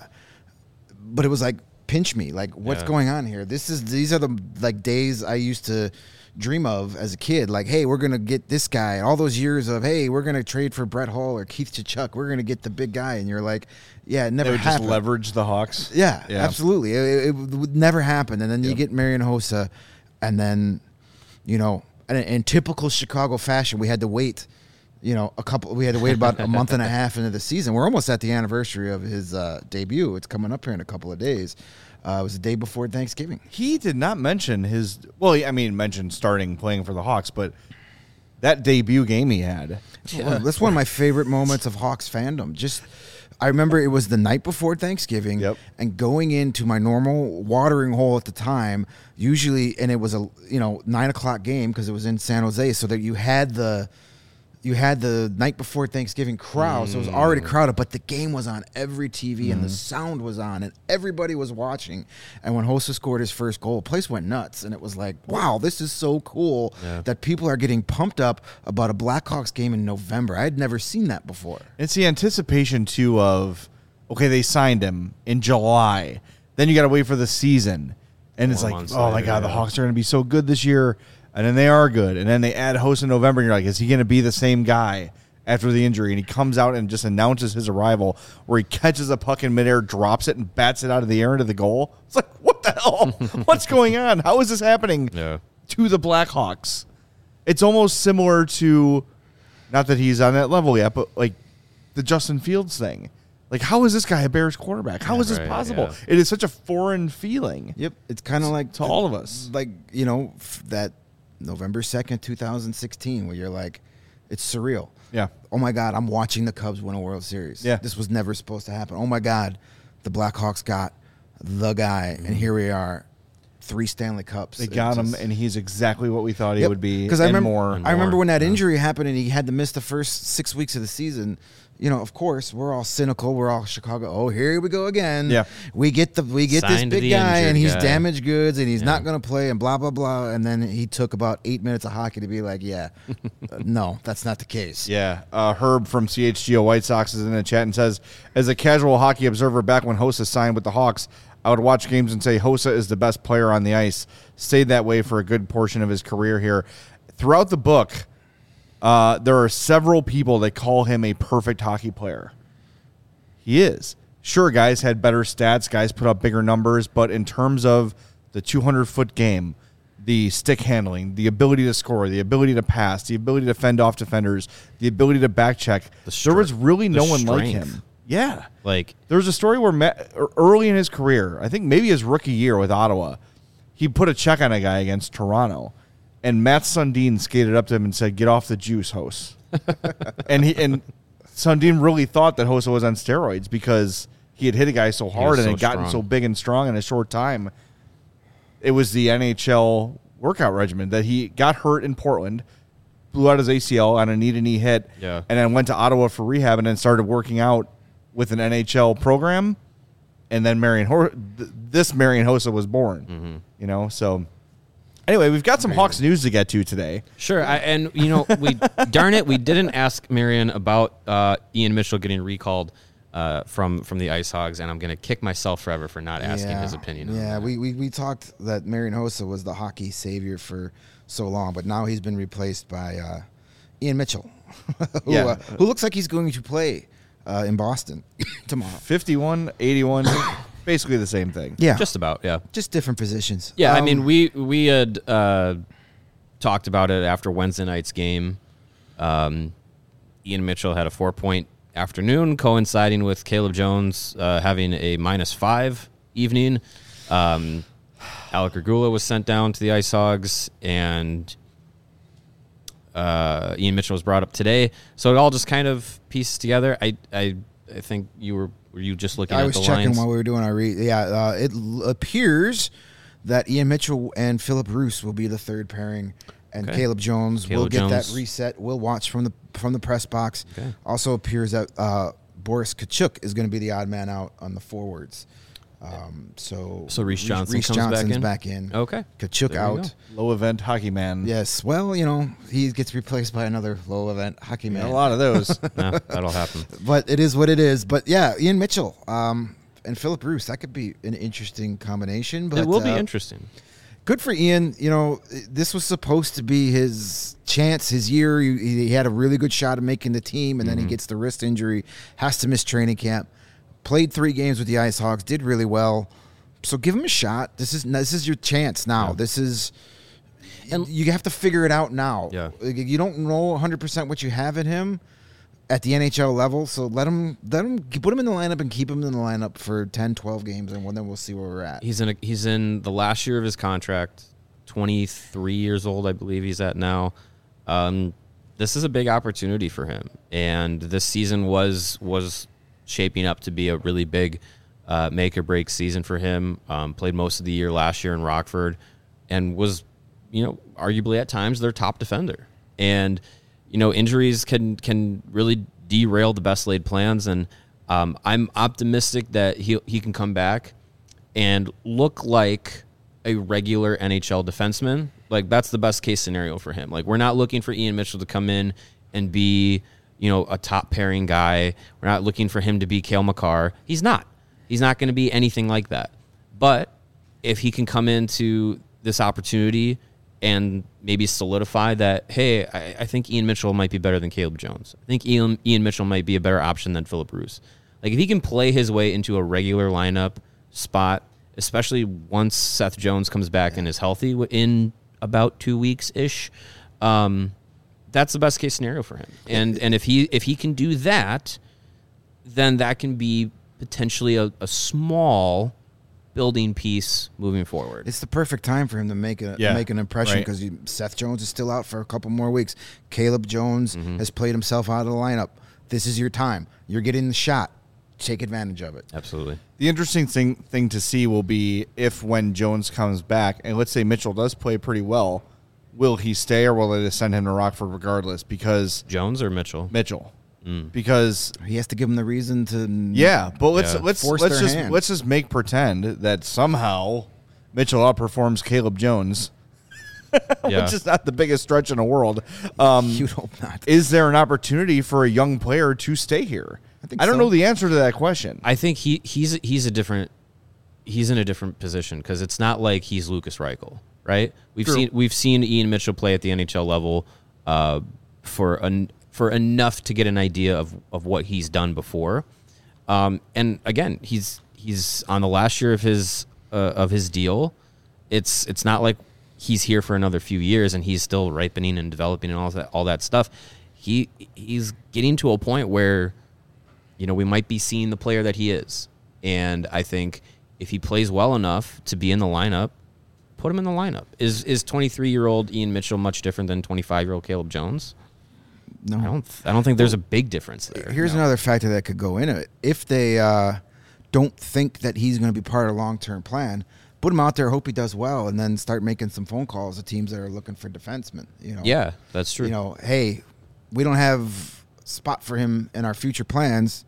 But it was like, pinch me. Like, what's Yeah. going on here? These are the like days I used to dream of as a kid. Like, hey, we're gonna get this guy. All those years of, hey, we're gonna trade for Brett Hull or Keith Tkachuk. We're gonna get the big guy. And you're like, yeah, it never They would just happened. leverage the Hawks. Yeah, Yeah. absolutely. It would never happen. And then you get Marian Hossa, and then, you know, And in typical Chicago fashion, we had to wait. We had to wait about a month and a half into the season. We're almost at the anniversary of his debut. It's coming up here in a couple of days. It was the day before Thanksgiving. He did not mention mentioned starting playing for the Hawks, but that debut game he had. Yeah. That's one of my favorite moments of Hawks fandom. I remember it was the night before Thanksgiving, and going into my normal watering hole at the time, usually, and it was a 9:00 game because it was in San Jose, so that you had the night before Thanksgiving crowd, so it was already crowded, but the game was on every TV and the sound was on and everybody was watching. And when Hossa scored his first goal, the place went nuts, and it was like, wow, this is so cool that people are getting pumped up about a Blackhawks game in November. I had never seen that before. It's the anticipation, too, of, okay, they signed him in July. Then you got to wait for the season. And it's like, oh, my God, the Hawks are going to be so good this year. And then they are good. And then they add Hossa in November, and you're like, is he going to be the same guy after the injury? And he comes out and just announces his arrival, where he catches a puck in midair, drops it, and bats it out of the air into the goal. It's like, what the hell? What's going on? How is this happening to the Blackhawks? It's almost similar to, not that he's on that level yet, but like the Justin Fields thing. Like, how is this guy a Bears quarterback? How is this possible? Yeah. It is such a foreign feeling. Yep. It's kind of like to all of us. Like, that November 2nd, 2016, where you're like, it's surreal. Yeah. Oh, my God, I'm watching the Cubs win a World Series. Yeah. This was never supposed to happen. Oh, my God, the Blackhawks got the guy, and here we are, 3 Stanley Cups. They got him, and he's exactly what we thought he would be, because I remember when that injury happened and he had to miss the first 6 weeks of the season. Of course, we're all cynical. We're all Chicago. Oh, here we go again. Yeah. We get this big guy, and he's damaged goods, and he's not going to play, and blah, blah, blah. And then he took about 8 minutes of hockey to be like, no, that's not the case. Yeah. Herb from CHGO White Sox is in the chat and says, as a casual hockey observer back when Hossa signed with the Hawks, I would watch games and say Hossa is the best player on the ice. Stayed that way for a good portion of his career here. Throughout the book, there are several people that call him a perfect hockey player. He is. Sure, guys had better stats. Guys put up bigger numbers. But in terms of the 200-foot game, the stick handling, the ability to score, the ability to pass, the ability to fend off defenders, the ability to back check, there was really no one like him. Yeah. Like, there was a story where Matt, early in his career, I think maybe his rookie year with Ottawa, he put a check on a guy against Toronto. And Matt Sundin skated up to him and said, "Get off the juice, Hossa." and Sundin really thought that Hossa was on steroids because he had hit a guy so hard and had gotten so big and strong in a short time. It was the NHL workout regimen that he got hurt in Portland, blew out his ACL on a knee-to-knee hit, and then went to Ottawa for rehab and then started working out with an NHL program. And then Marian Hossa was born, so... Anyway, we've got some Hawks news to get to today. Sure, we didn't ask Marian about Ian Mitchell getting recalled from the Ice Hogs, and I'm going to kick myself forever for not asking his opinion. Yeah, we talked that Marian Hossa was the hockey savior for so long, but now he's been replaced by Ian Mitchell, who looks like he's going to play in Boston tomorrow. 51, 81. Basically the same thing. Yeah. Just about, yeah. Just different positions. Yeah, I mean, we had talked about it after Wednesday night's game. Ian Mitchell had a 4-point afternoon, coinciding with Caleb Jones having a -5 evening. Alec Regula was sent down to the Ice Hogs, and Ian Mitchell was brought up today. So it all just kind of pieces together. I think were you just looking at the lines? I was checking while we were doing our read. Yeah, it appears that Ian Mitchell and Philip Roos will be the third pairing, and Caleb Jones will get that reset. We'll watch from the press box. Okay. Also appears that Boris Tkachuk is going to be the odd man out on the forwards. So Reese Johnson's back in. Okay. Tkachuk out. Low event hockey man. Yes. Well, he gets replaced by another low event hockey man. A lot of those. No, that'll happen. But it is what it is. But yeah, Ian Mitchell and Philip Roos, that could be an interesting combination. But it will be interesting. Good for Ian. This was supposed to be his chance, his year. He had a really good shot at making the team, and then he gets the wrist injury, has to miss training camp. Played 3 games with the Ice Hogs, did really well. So give him a shot. This is your chance now. Yeah. This is And- you have to figure it out now. Yeah. Like, you don't know 100% what you have in him at the NHL level, so let him put him in the lineup and keep him in the lineup for 10, 12 games, and then we'll see where we're at. He's in the last year of his contract, 23 years old, I believe he's at now. This is a big opportunity for him, and this season was shaping up to be a really big make or break season for him. Played most of the year last year in Rockford, and was, arguably at times their top defender. And injuries can really derail the best laid plans, and I'm optimistic that he can come back and look like a regular NHL defenseman. Like, that's the best case scenario for him. Like, we're not looking for Ian Mitchell to come in and be, a top pairing guy. We're not looking for him to be Cale Makar. He's not. He's not going to be anything like that. But if he can come into this opportunity and maybe solidify that, hey, I think Ian Mitchell might be better than Caleb Jones. I think Ian Mitchell might be a better option than Philip Roos. Like, if he can play his way into a regular lineup spot, especially once Seth Jones comes back and is healthy in about 2 weeks-ish, that's the best case scenario for him. And if he can do that, then that can be potentially a small building piece moving forward. It's the perfect time for him to make an impression, because Seth Jones is still out for a couple more weeks. Caleb Jones has played himself out of the lineup. This is your time. You're getting the shot. Take advantage of it. Absolutely. The interesting thing to see will be if, when Jones comes back, and let's say Mitchell does play pretty well, will he stay or will they just send him to Rockford regardless? Because Jones or Mitchell? Mitchell. Because he has to give him the reason to. Yeah, but let's force their hand. let's just make pretend that somehow Mitchell outperforms Caleb Jones. Yeah. Which is not the biggest stretch in the world. You'd hope not. Is there an opportunity for a young player to stay here? I don't know the answer to that question. I think he's in a different position, because it's not like he's Lucas Reichel, right? We've seen Ian Mitchell play at the NHL level for enough to get an idea of what he's done before. And again, he's on the last year of his deal. It's not like he's here for another few years and he's still ripening and developing and all that stuff. He's getting to a point where, we might be seeing the player that he is. And I think if he plays well enough to be in the lineup, put him in the lineup. Is 23-year-old Ian Mitchell much different than 25-year-old Caleb Jones? No. I don't think there's a big difference there. Here's another factor that could go into it. If they don't think that he's going to be part of a long-term plan, put him out there, hope he does well, and then start making some phone calls to teams that are looking for defensemen. Yeah, that's true. Hey, we don't have a spot for him in our future plans.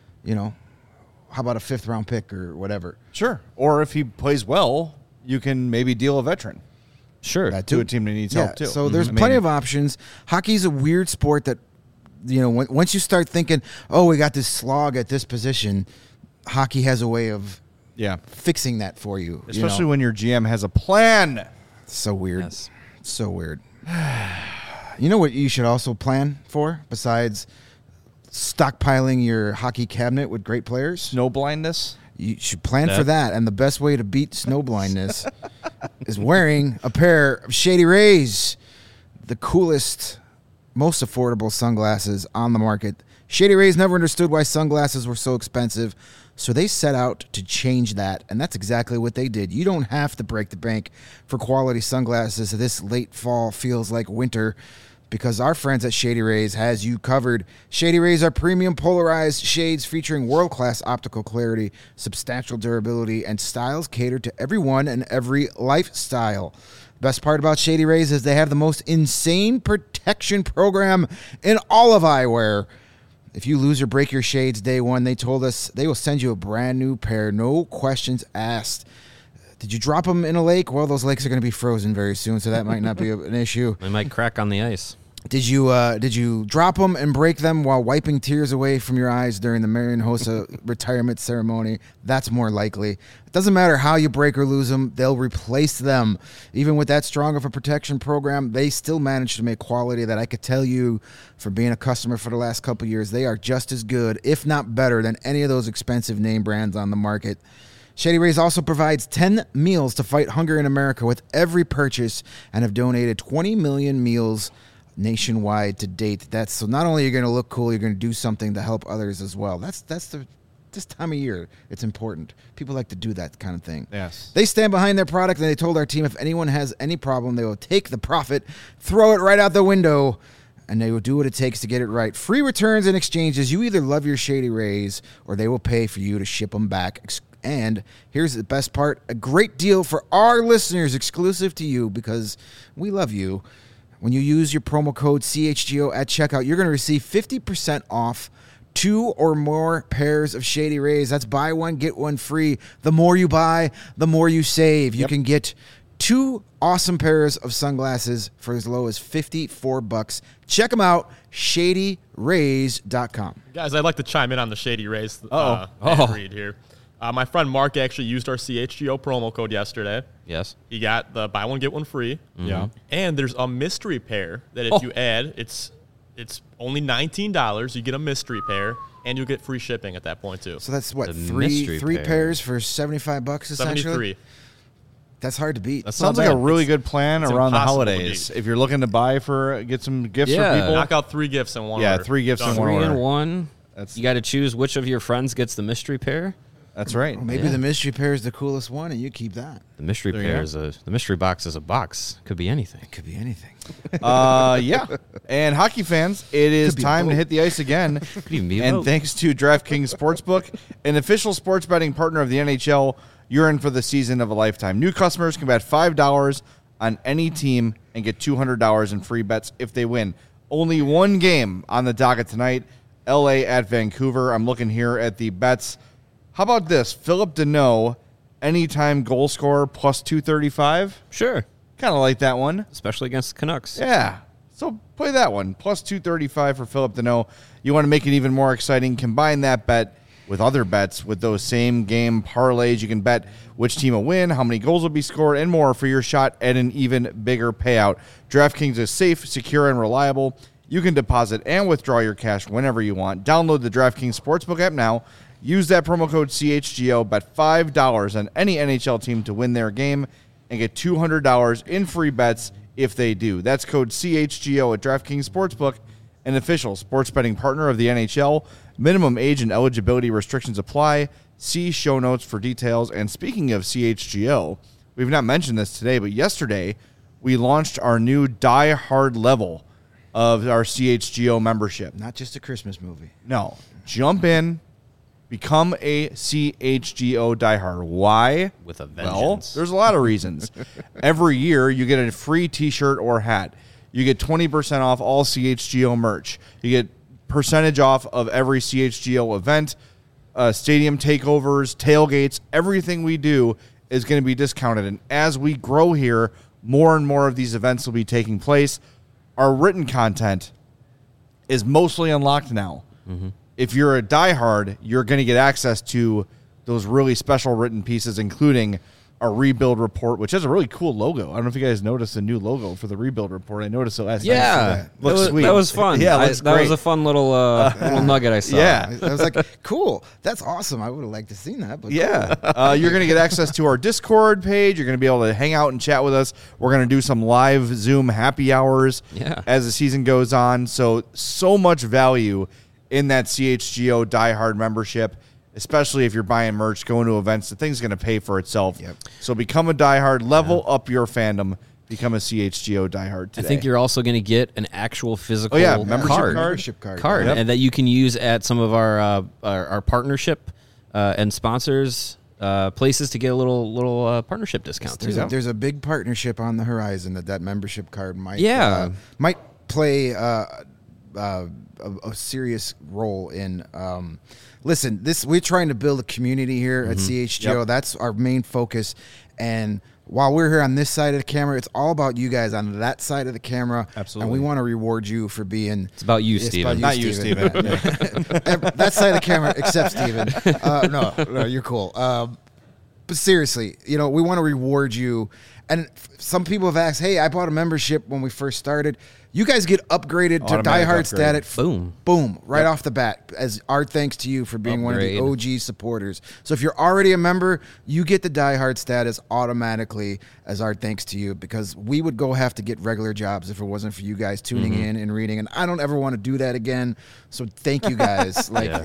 How about a 5th-round pick or whatever? Sure. Or if he plays well, you can maybe deal a veteran. Sure. That To a team that needs help, too. So there's plenty of options. Hockey's a weird sport that, once you start thinking, oh, we got this slog at this position, hockey has a way of fixing that for you. Especially when your GM has a plan. So weird. Yes. So weird. You know what you should also plan for, besides stockpiling your hockey cabinet with great players? Snow blindness. You should plan for that. And the best way to beat snow blindness is wearing a pair of Shady Rays, the coolest, most affordable sunglasses on the market. Shady Rays never understood why sunglasses were so expensive, so they set out to change that, and that's exactly what they did. You don't have to break the bank for quality sunglasses. This late fall feels like winter, because our friends at Shady Rays has you covered. Shady Rays are premium polarized shades featuring world-class optical clarity, substantial durability, and styles catered to everyone and every lifestyle. Best part about Shady Rays is they have the most insane protection program in all of eyewear. If you lose or break your shades day one, they told us they will send you a brand new pair, no questions asked. Did you drop them in a lake? Well, those lakes are going to be frozen very soon, so that might not be an issue. They might crack on the ice. Did you drop them and break them while wiping tears away from your eyes during the Marian Hossa retirement ceremony? That's more likely. It doesn't matter how you break or lose them, they'll replace them. Even with that strong of a protection program, they still manage to make quality that I could tell you, for being a customer for the last couple of years, they are just as good, if not better, than any of those expensive name brands on the market. Shady Rays also provides 10 meals to fight hunger in America with every purchase and have donated 20 million meals nationwide to date. That's so not only are you going to look cool, you're going to do something to help others as well. That's this time of year, it's important. People like to do that kind of thing. Yes. They stand behind their product, and they told our team if anyone has any problem, they will take the profit, throw it right out the window, and they will do what it takes to get it right. Free returns and exchanges. You either love your Shady Rays, or they will pay for you to ship them back. And here's the best part, a great deal for our listeners, exclusive to you, because we love you. When you use your promo code CHGO at checkout, you're going to receive 50% off 2 or more pairs of Shady Rays. That's buy one, get one free. The more you buy, the more you save. You can get 2 awesome pairs of sunglasses for as low as $54. Check them out, ShadyRays.com. Guys, I'd like to chime in on the Shady Rays read here. My friend Mark actually used our CHGO promo code yesterday. Yes. He got the buy one, get one free. Yeah. And there's a mystery pair that if you add, it's only $19. You get a mystery pair, and you'll get free shipping at that point, too. So that's what, The three mystery pair. pairs for $75 essentially? 73. That's hard to beat. That's Sounds not like a bad. really It's- good plan it's around the impossible to holidays. beat. If you're looking to get some gifts Yeah. for people. Knock out 3 gifts in one Yeah, order. 3 gifts in Done. one 3 order. in 1. That's- You got to choose which of your friends gets the mystery pair. That's right. Well, maybe the mystery pair is the coolest one, and you keep that. The mystery There you pair go. is the mystery box is a box. Could be anything. It could be anything. Yeah. And hockey fans, it is Could be time to both. hit the ice again. Could even be a And vote. thanks to DraftKings Sportsbook, an official sports betting partner of the NHL, you're in for the season of a lifetime. New customers can bet $5 on any team and get $200 in free bets if they win. Only one game on the docket tonight, LA at Vancouver. I'm looking here at the bets. How about this? Philip Deneau, anytime goal scorer, plus 235. Sure. Kind of like that one. Especially against the Canucks. Yeah. So play that one. Plus 235 for Philip Deneau. You want to make it even more exciting, combine that bet with other bets with those same game parlays. You can bet which team will win, how many goals will be scored, and more for your shot at an even bigger payout. DraftKings is safe, secure, and reliable. You can deposit and withdraw your cash whenever you want. Download the DraftKings Sportsbook app now. Use that promo code CHGO. Bet $5 on any NHL team to win their game and get $200 in free bets if they do. That's code CHGO at DraftKings Sportsbook, an official sports betting partner of the NHL. Minimum age and eligibility restrictions apply. See show notes for details. And speaking of CHGO, we've not mentioned this today, but yesterday we launched our new Die Hard level of our CHGO membership. Not just a Christmas movie. No, jump in, become a CHGO diehard. Why? With a Well, vengeance. there's a lot of reasons. Every year, you get a free T-shirt or hat. You get 20% off all CHGO merch. You get percentage off of every CHGO event, stadium takeovers, tailgates. Everything we do is going to be discounted. And as we grow here, more and more of these events will be taking place. Our written content is mostly unlocked now. If you're a diehard, you're going to get access to those really special written pieces, including our rebuild report, which has a really cool logo. I don't know if you guys noticed the new logo for the rebuild report. I noticed it last night. Yeah, Looks sweet. That was fun. Yeah, it looks that was great. a fun little little nugget I saw. Yeah. I was like, cool. That's awesome. I would have liked to seen that. But Yeah. You're going to get access to our Discord page. You're going to be able to hang out and chat with us. We're going to do some live Zoom happy hours as the season goes on. So much value in that CHGO diehard membership, especially if you're buying merch, going to events. The thing's going to pay for itself. Yep. So become a diehard, level up your fandom, become a CHGO diehard today. I think you're also going to get an actual physical membership card. Yep. and that you can use at some of our partnership and sponsors places to get a little partnership discount too. There's a big partnership on the horizon that membership card might play a serious role in. Listen, we're trying to build a community here at CHGO. Yep. That's our main focus. And while we're here on this side of the camera, it's all about you guys on that side of the camera. Absolutely. And we want to reward you for being. It's about you, It's Steven. about Not you, Steven. That side of the camera, except Steven. No, you're cool. But seriously, we want to reward you. And some people have asked, hey, I bought a membership when we first started. You guys get upgraded to Automatic diehard upgrade. status. Boom. Right off the bat, as our thanks to you for being Upgrade. one of the OG supporters. So if you're already a member, you get the diehard status automatically as our thanks to you, because we would have to get regular jobs if it wasn't for you guys tuning in and reading. And I don't ever want to do that again. So thank you guys.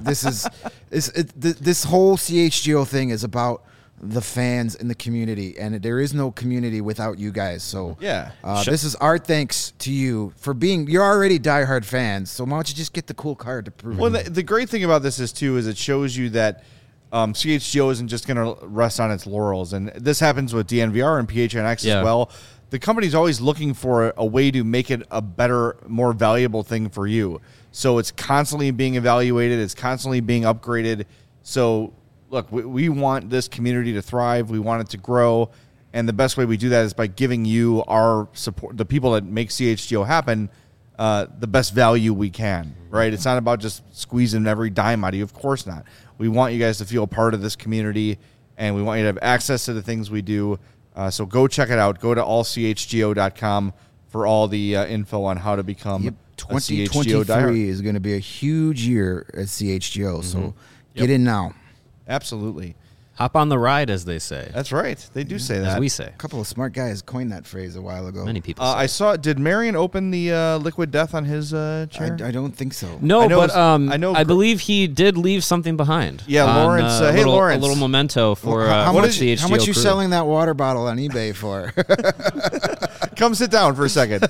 This whole CHGO thing is about the fans and the community, and there is no community without you guys. So this is our thanks to you for you're already diehard fans, so why don't you just get the cool card to prove Well, it? the great thing about this is it shows you that CHGO isn't just going to rest on its laurels, and this happens with DNVR and PHNX as well. The company's always looking for a way to make it a better, more valuable thing for you. So it's constantly being evaluated, it's constantly being upgraded. So look, we want this community to thrive. We want it to grow. And the best way we do that is by giving you our support, the people that make CHGO happen, the best value we can, right? It's not about just squeezing every dime out of you. Of course not. We want you guys to feel part of this community, and we want you to have access to the things we do. So go check it out. Go to allchgo.com for all the info on how to become a CHGO diehard. 2023 is going to be a huge year at CHGO, so get in now. Absolutely. Hop on the ride, as they say. That's right. They do say As that. we say. A couple of smart guys coined that phrase a while ago. Many people say. I saw. Did Marion open the Liquid Death on his chair? I don't think so. No, I know but it's- I believe he did leave something behind. Yeah, on, Lawrence, a hey, little, Lawrence. a little memento for how for much? CHGO How much you crew. selling that water bottle on eBay for? Come sit down for a second.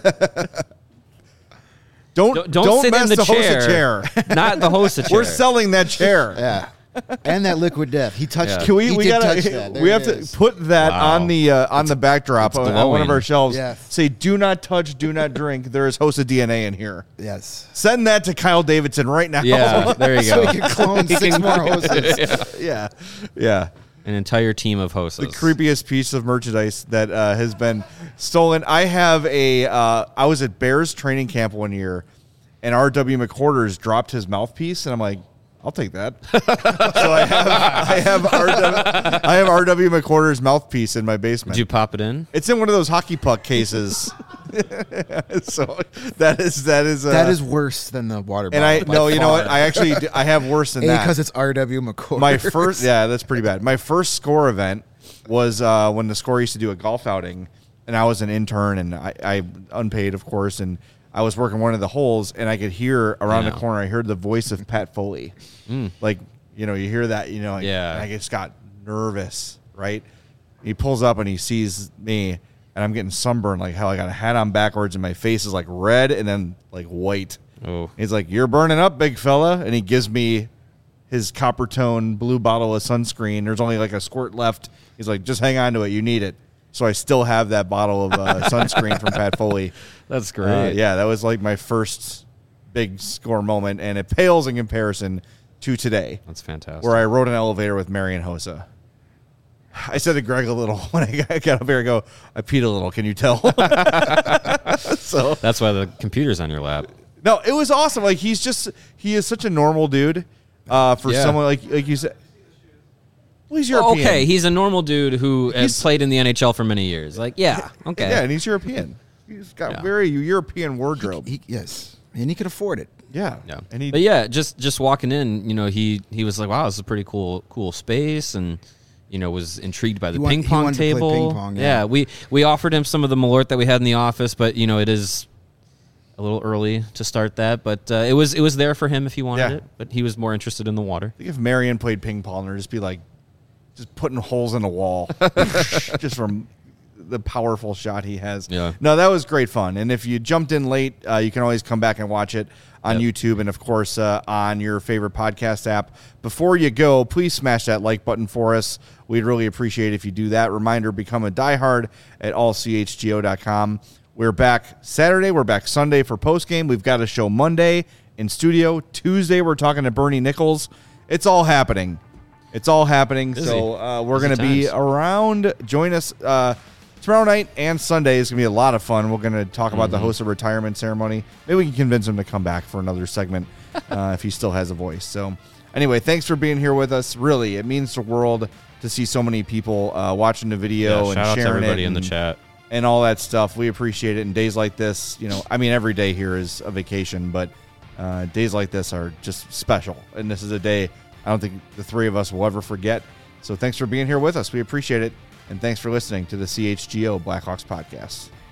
Don't sit mess in the the host a chair. chair. Not the host chair. We're selling that chair. Yeah, and that Liquid Death. He touched. Yeah. Can we? He We did gotta. touch that. There We have it to is. put that Wow. on the backdrop on one of glowing. our shelves. Yes. Say, do not touch, do not drink. There is host of DNA in here. Yes. Send that to Kyle Davidson right now. Yeah, there you So go. we can clone 6 more hoses. yeah. An entire team of hosts. The creepiest piece of merchandise that has been stolen. I have I was at Bears training camp one year, and R.W. McQuarters dropped his mouthpiece, and I'm like, I'll take that. So I have R.W. McQuarters mouthpiece in my basement. Did you pop it in? It's in one of those hockey puck cases. So that That is worse than the water And bottle. I no, you know what? I have worse than that. because it's R.W. McCoy. My first, that's pretty bad. My first score event was when the score used to do a golf outing, and I was an intern, and I unpaid, of course, and I was working one of the holes, and I could hear around the corner. I heard the voice of Pat Foley, like you hear that, and I just got nervous, right? He pulls up and he sees me, and I'm getting sunburned like hell. I got a hat on backwards, and my face is like red and then like white. Oh. He's like, "You're burning up, big fella," and he gives me his copper tone blue bottle of sunscreen. There's only like a squirt left. He's like, "Just hang on to it. You need it." So I still have that bottle of sunscreen from Pat Foley. That's great. Yeah, that was like my first big score moment, and it pales in comparison to today, That's fantastic. where I rode an elevator with Marion Hossa. I said to Greg a little when I got up here, I go, I peed a little. Can you tell? So That's why the computer's on your lap. no, it was awesome. Like he is such a normal dude for someone like you said. Well, he's European. Okay, he's a normal dude who has He's- played in the NHL for many years. Like, yeah, okay. Yeah, and he's European. He's got very European wardrobe. Yes, and he could afford it. Yeah. Yeah. And But yeah, just walking in, he was like, wow, this is a pretty cool space, and was intrigued by the He ping pong wanted to play table. ping pong, yeah. We offered him some of the Malort that we had in the office, but it is a little early to start that. But it was there for him if he wanted Yeah. it. But he was more interested in the water. I think if Marion played ping pong, there'd just be like just putting holes in the wall just from the powerful shot he has. Yeah. No, that was great fun. And if you jumped in late, you can always come back and watch it on YouTube and, of course, on your favorite podcast app. Before you go, please smash that like button for us. We'd really appreciate it if you do that. Reminder, become a diehard at allchgo.com. We're back Saturday. We're back Sunday for postgame. We've got a show Monday in studio. Tuesday, we're talking to Bernie Nichols. It's all happening. It's all happening. Busy. So we're Busy going to be times. around. Join us tomorrow night and Sunday. Is going to be a lot of fun. We're going to talk about the host of retirement ceremony. Maybe we can convince him to come back for another segment if he still has a voice. So Anyway, thanks for being here with us. Really, it means the world to see so many people watching the video and shout out to sharing everybody it in the chat. and all that stuff. We appreciate it. And days like this, I mean, every day here is a vacation, but days like this are just special. And this is a day I don't think the three of us will ever forget. So thanks for being here with us. We appreciate it. And thanks for listening to the CHGO Blackhawks podcast.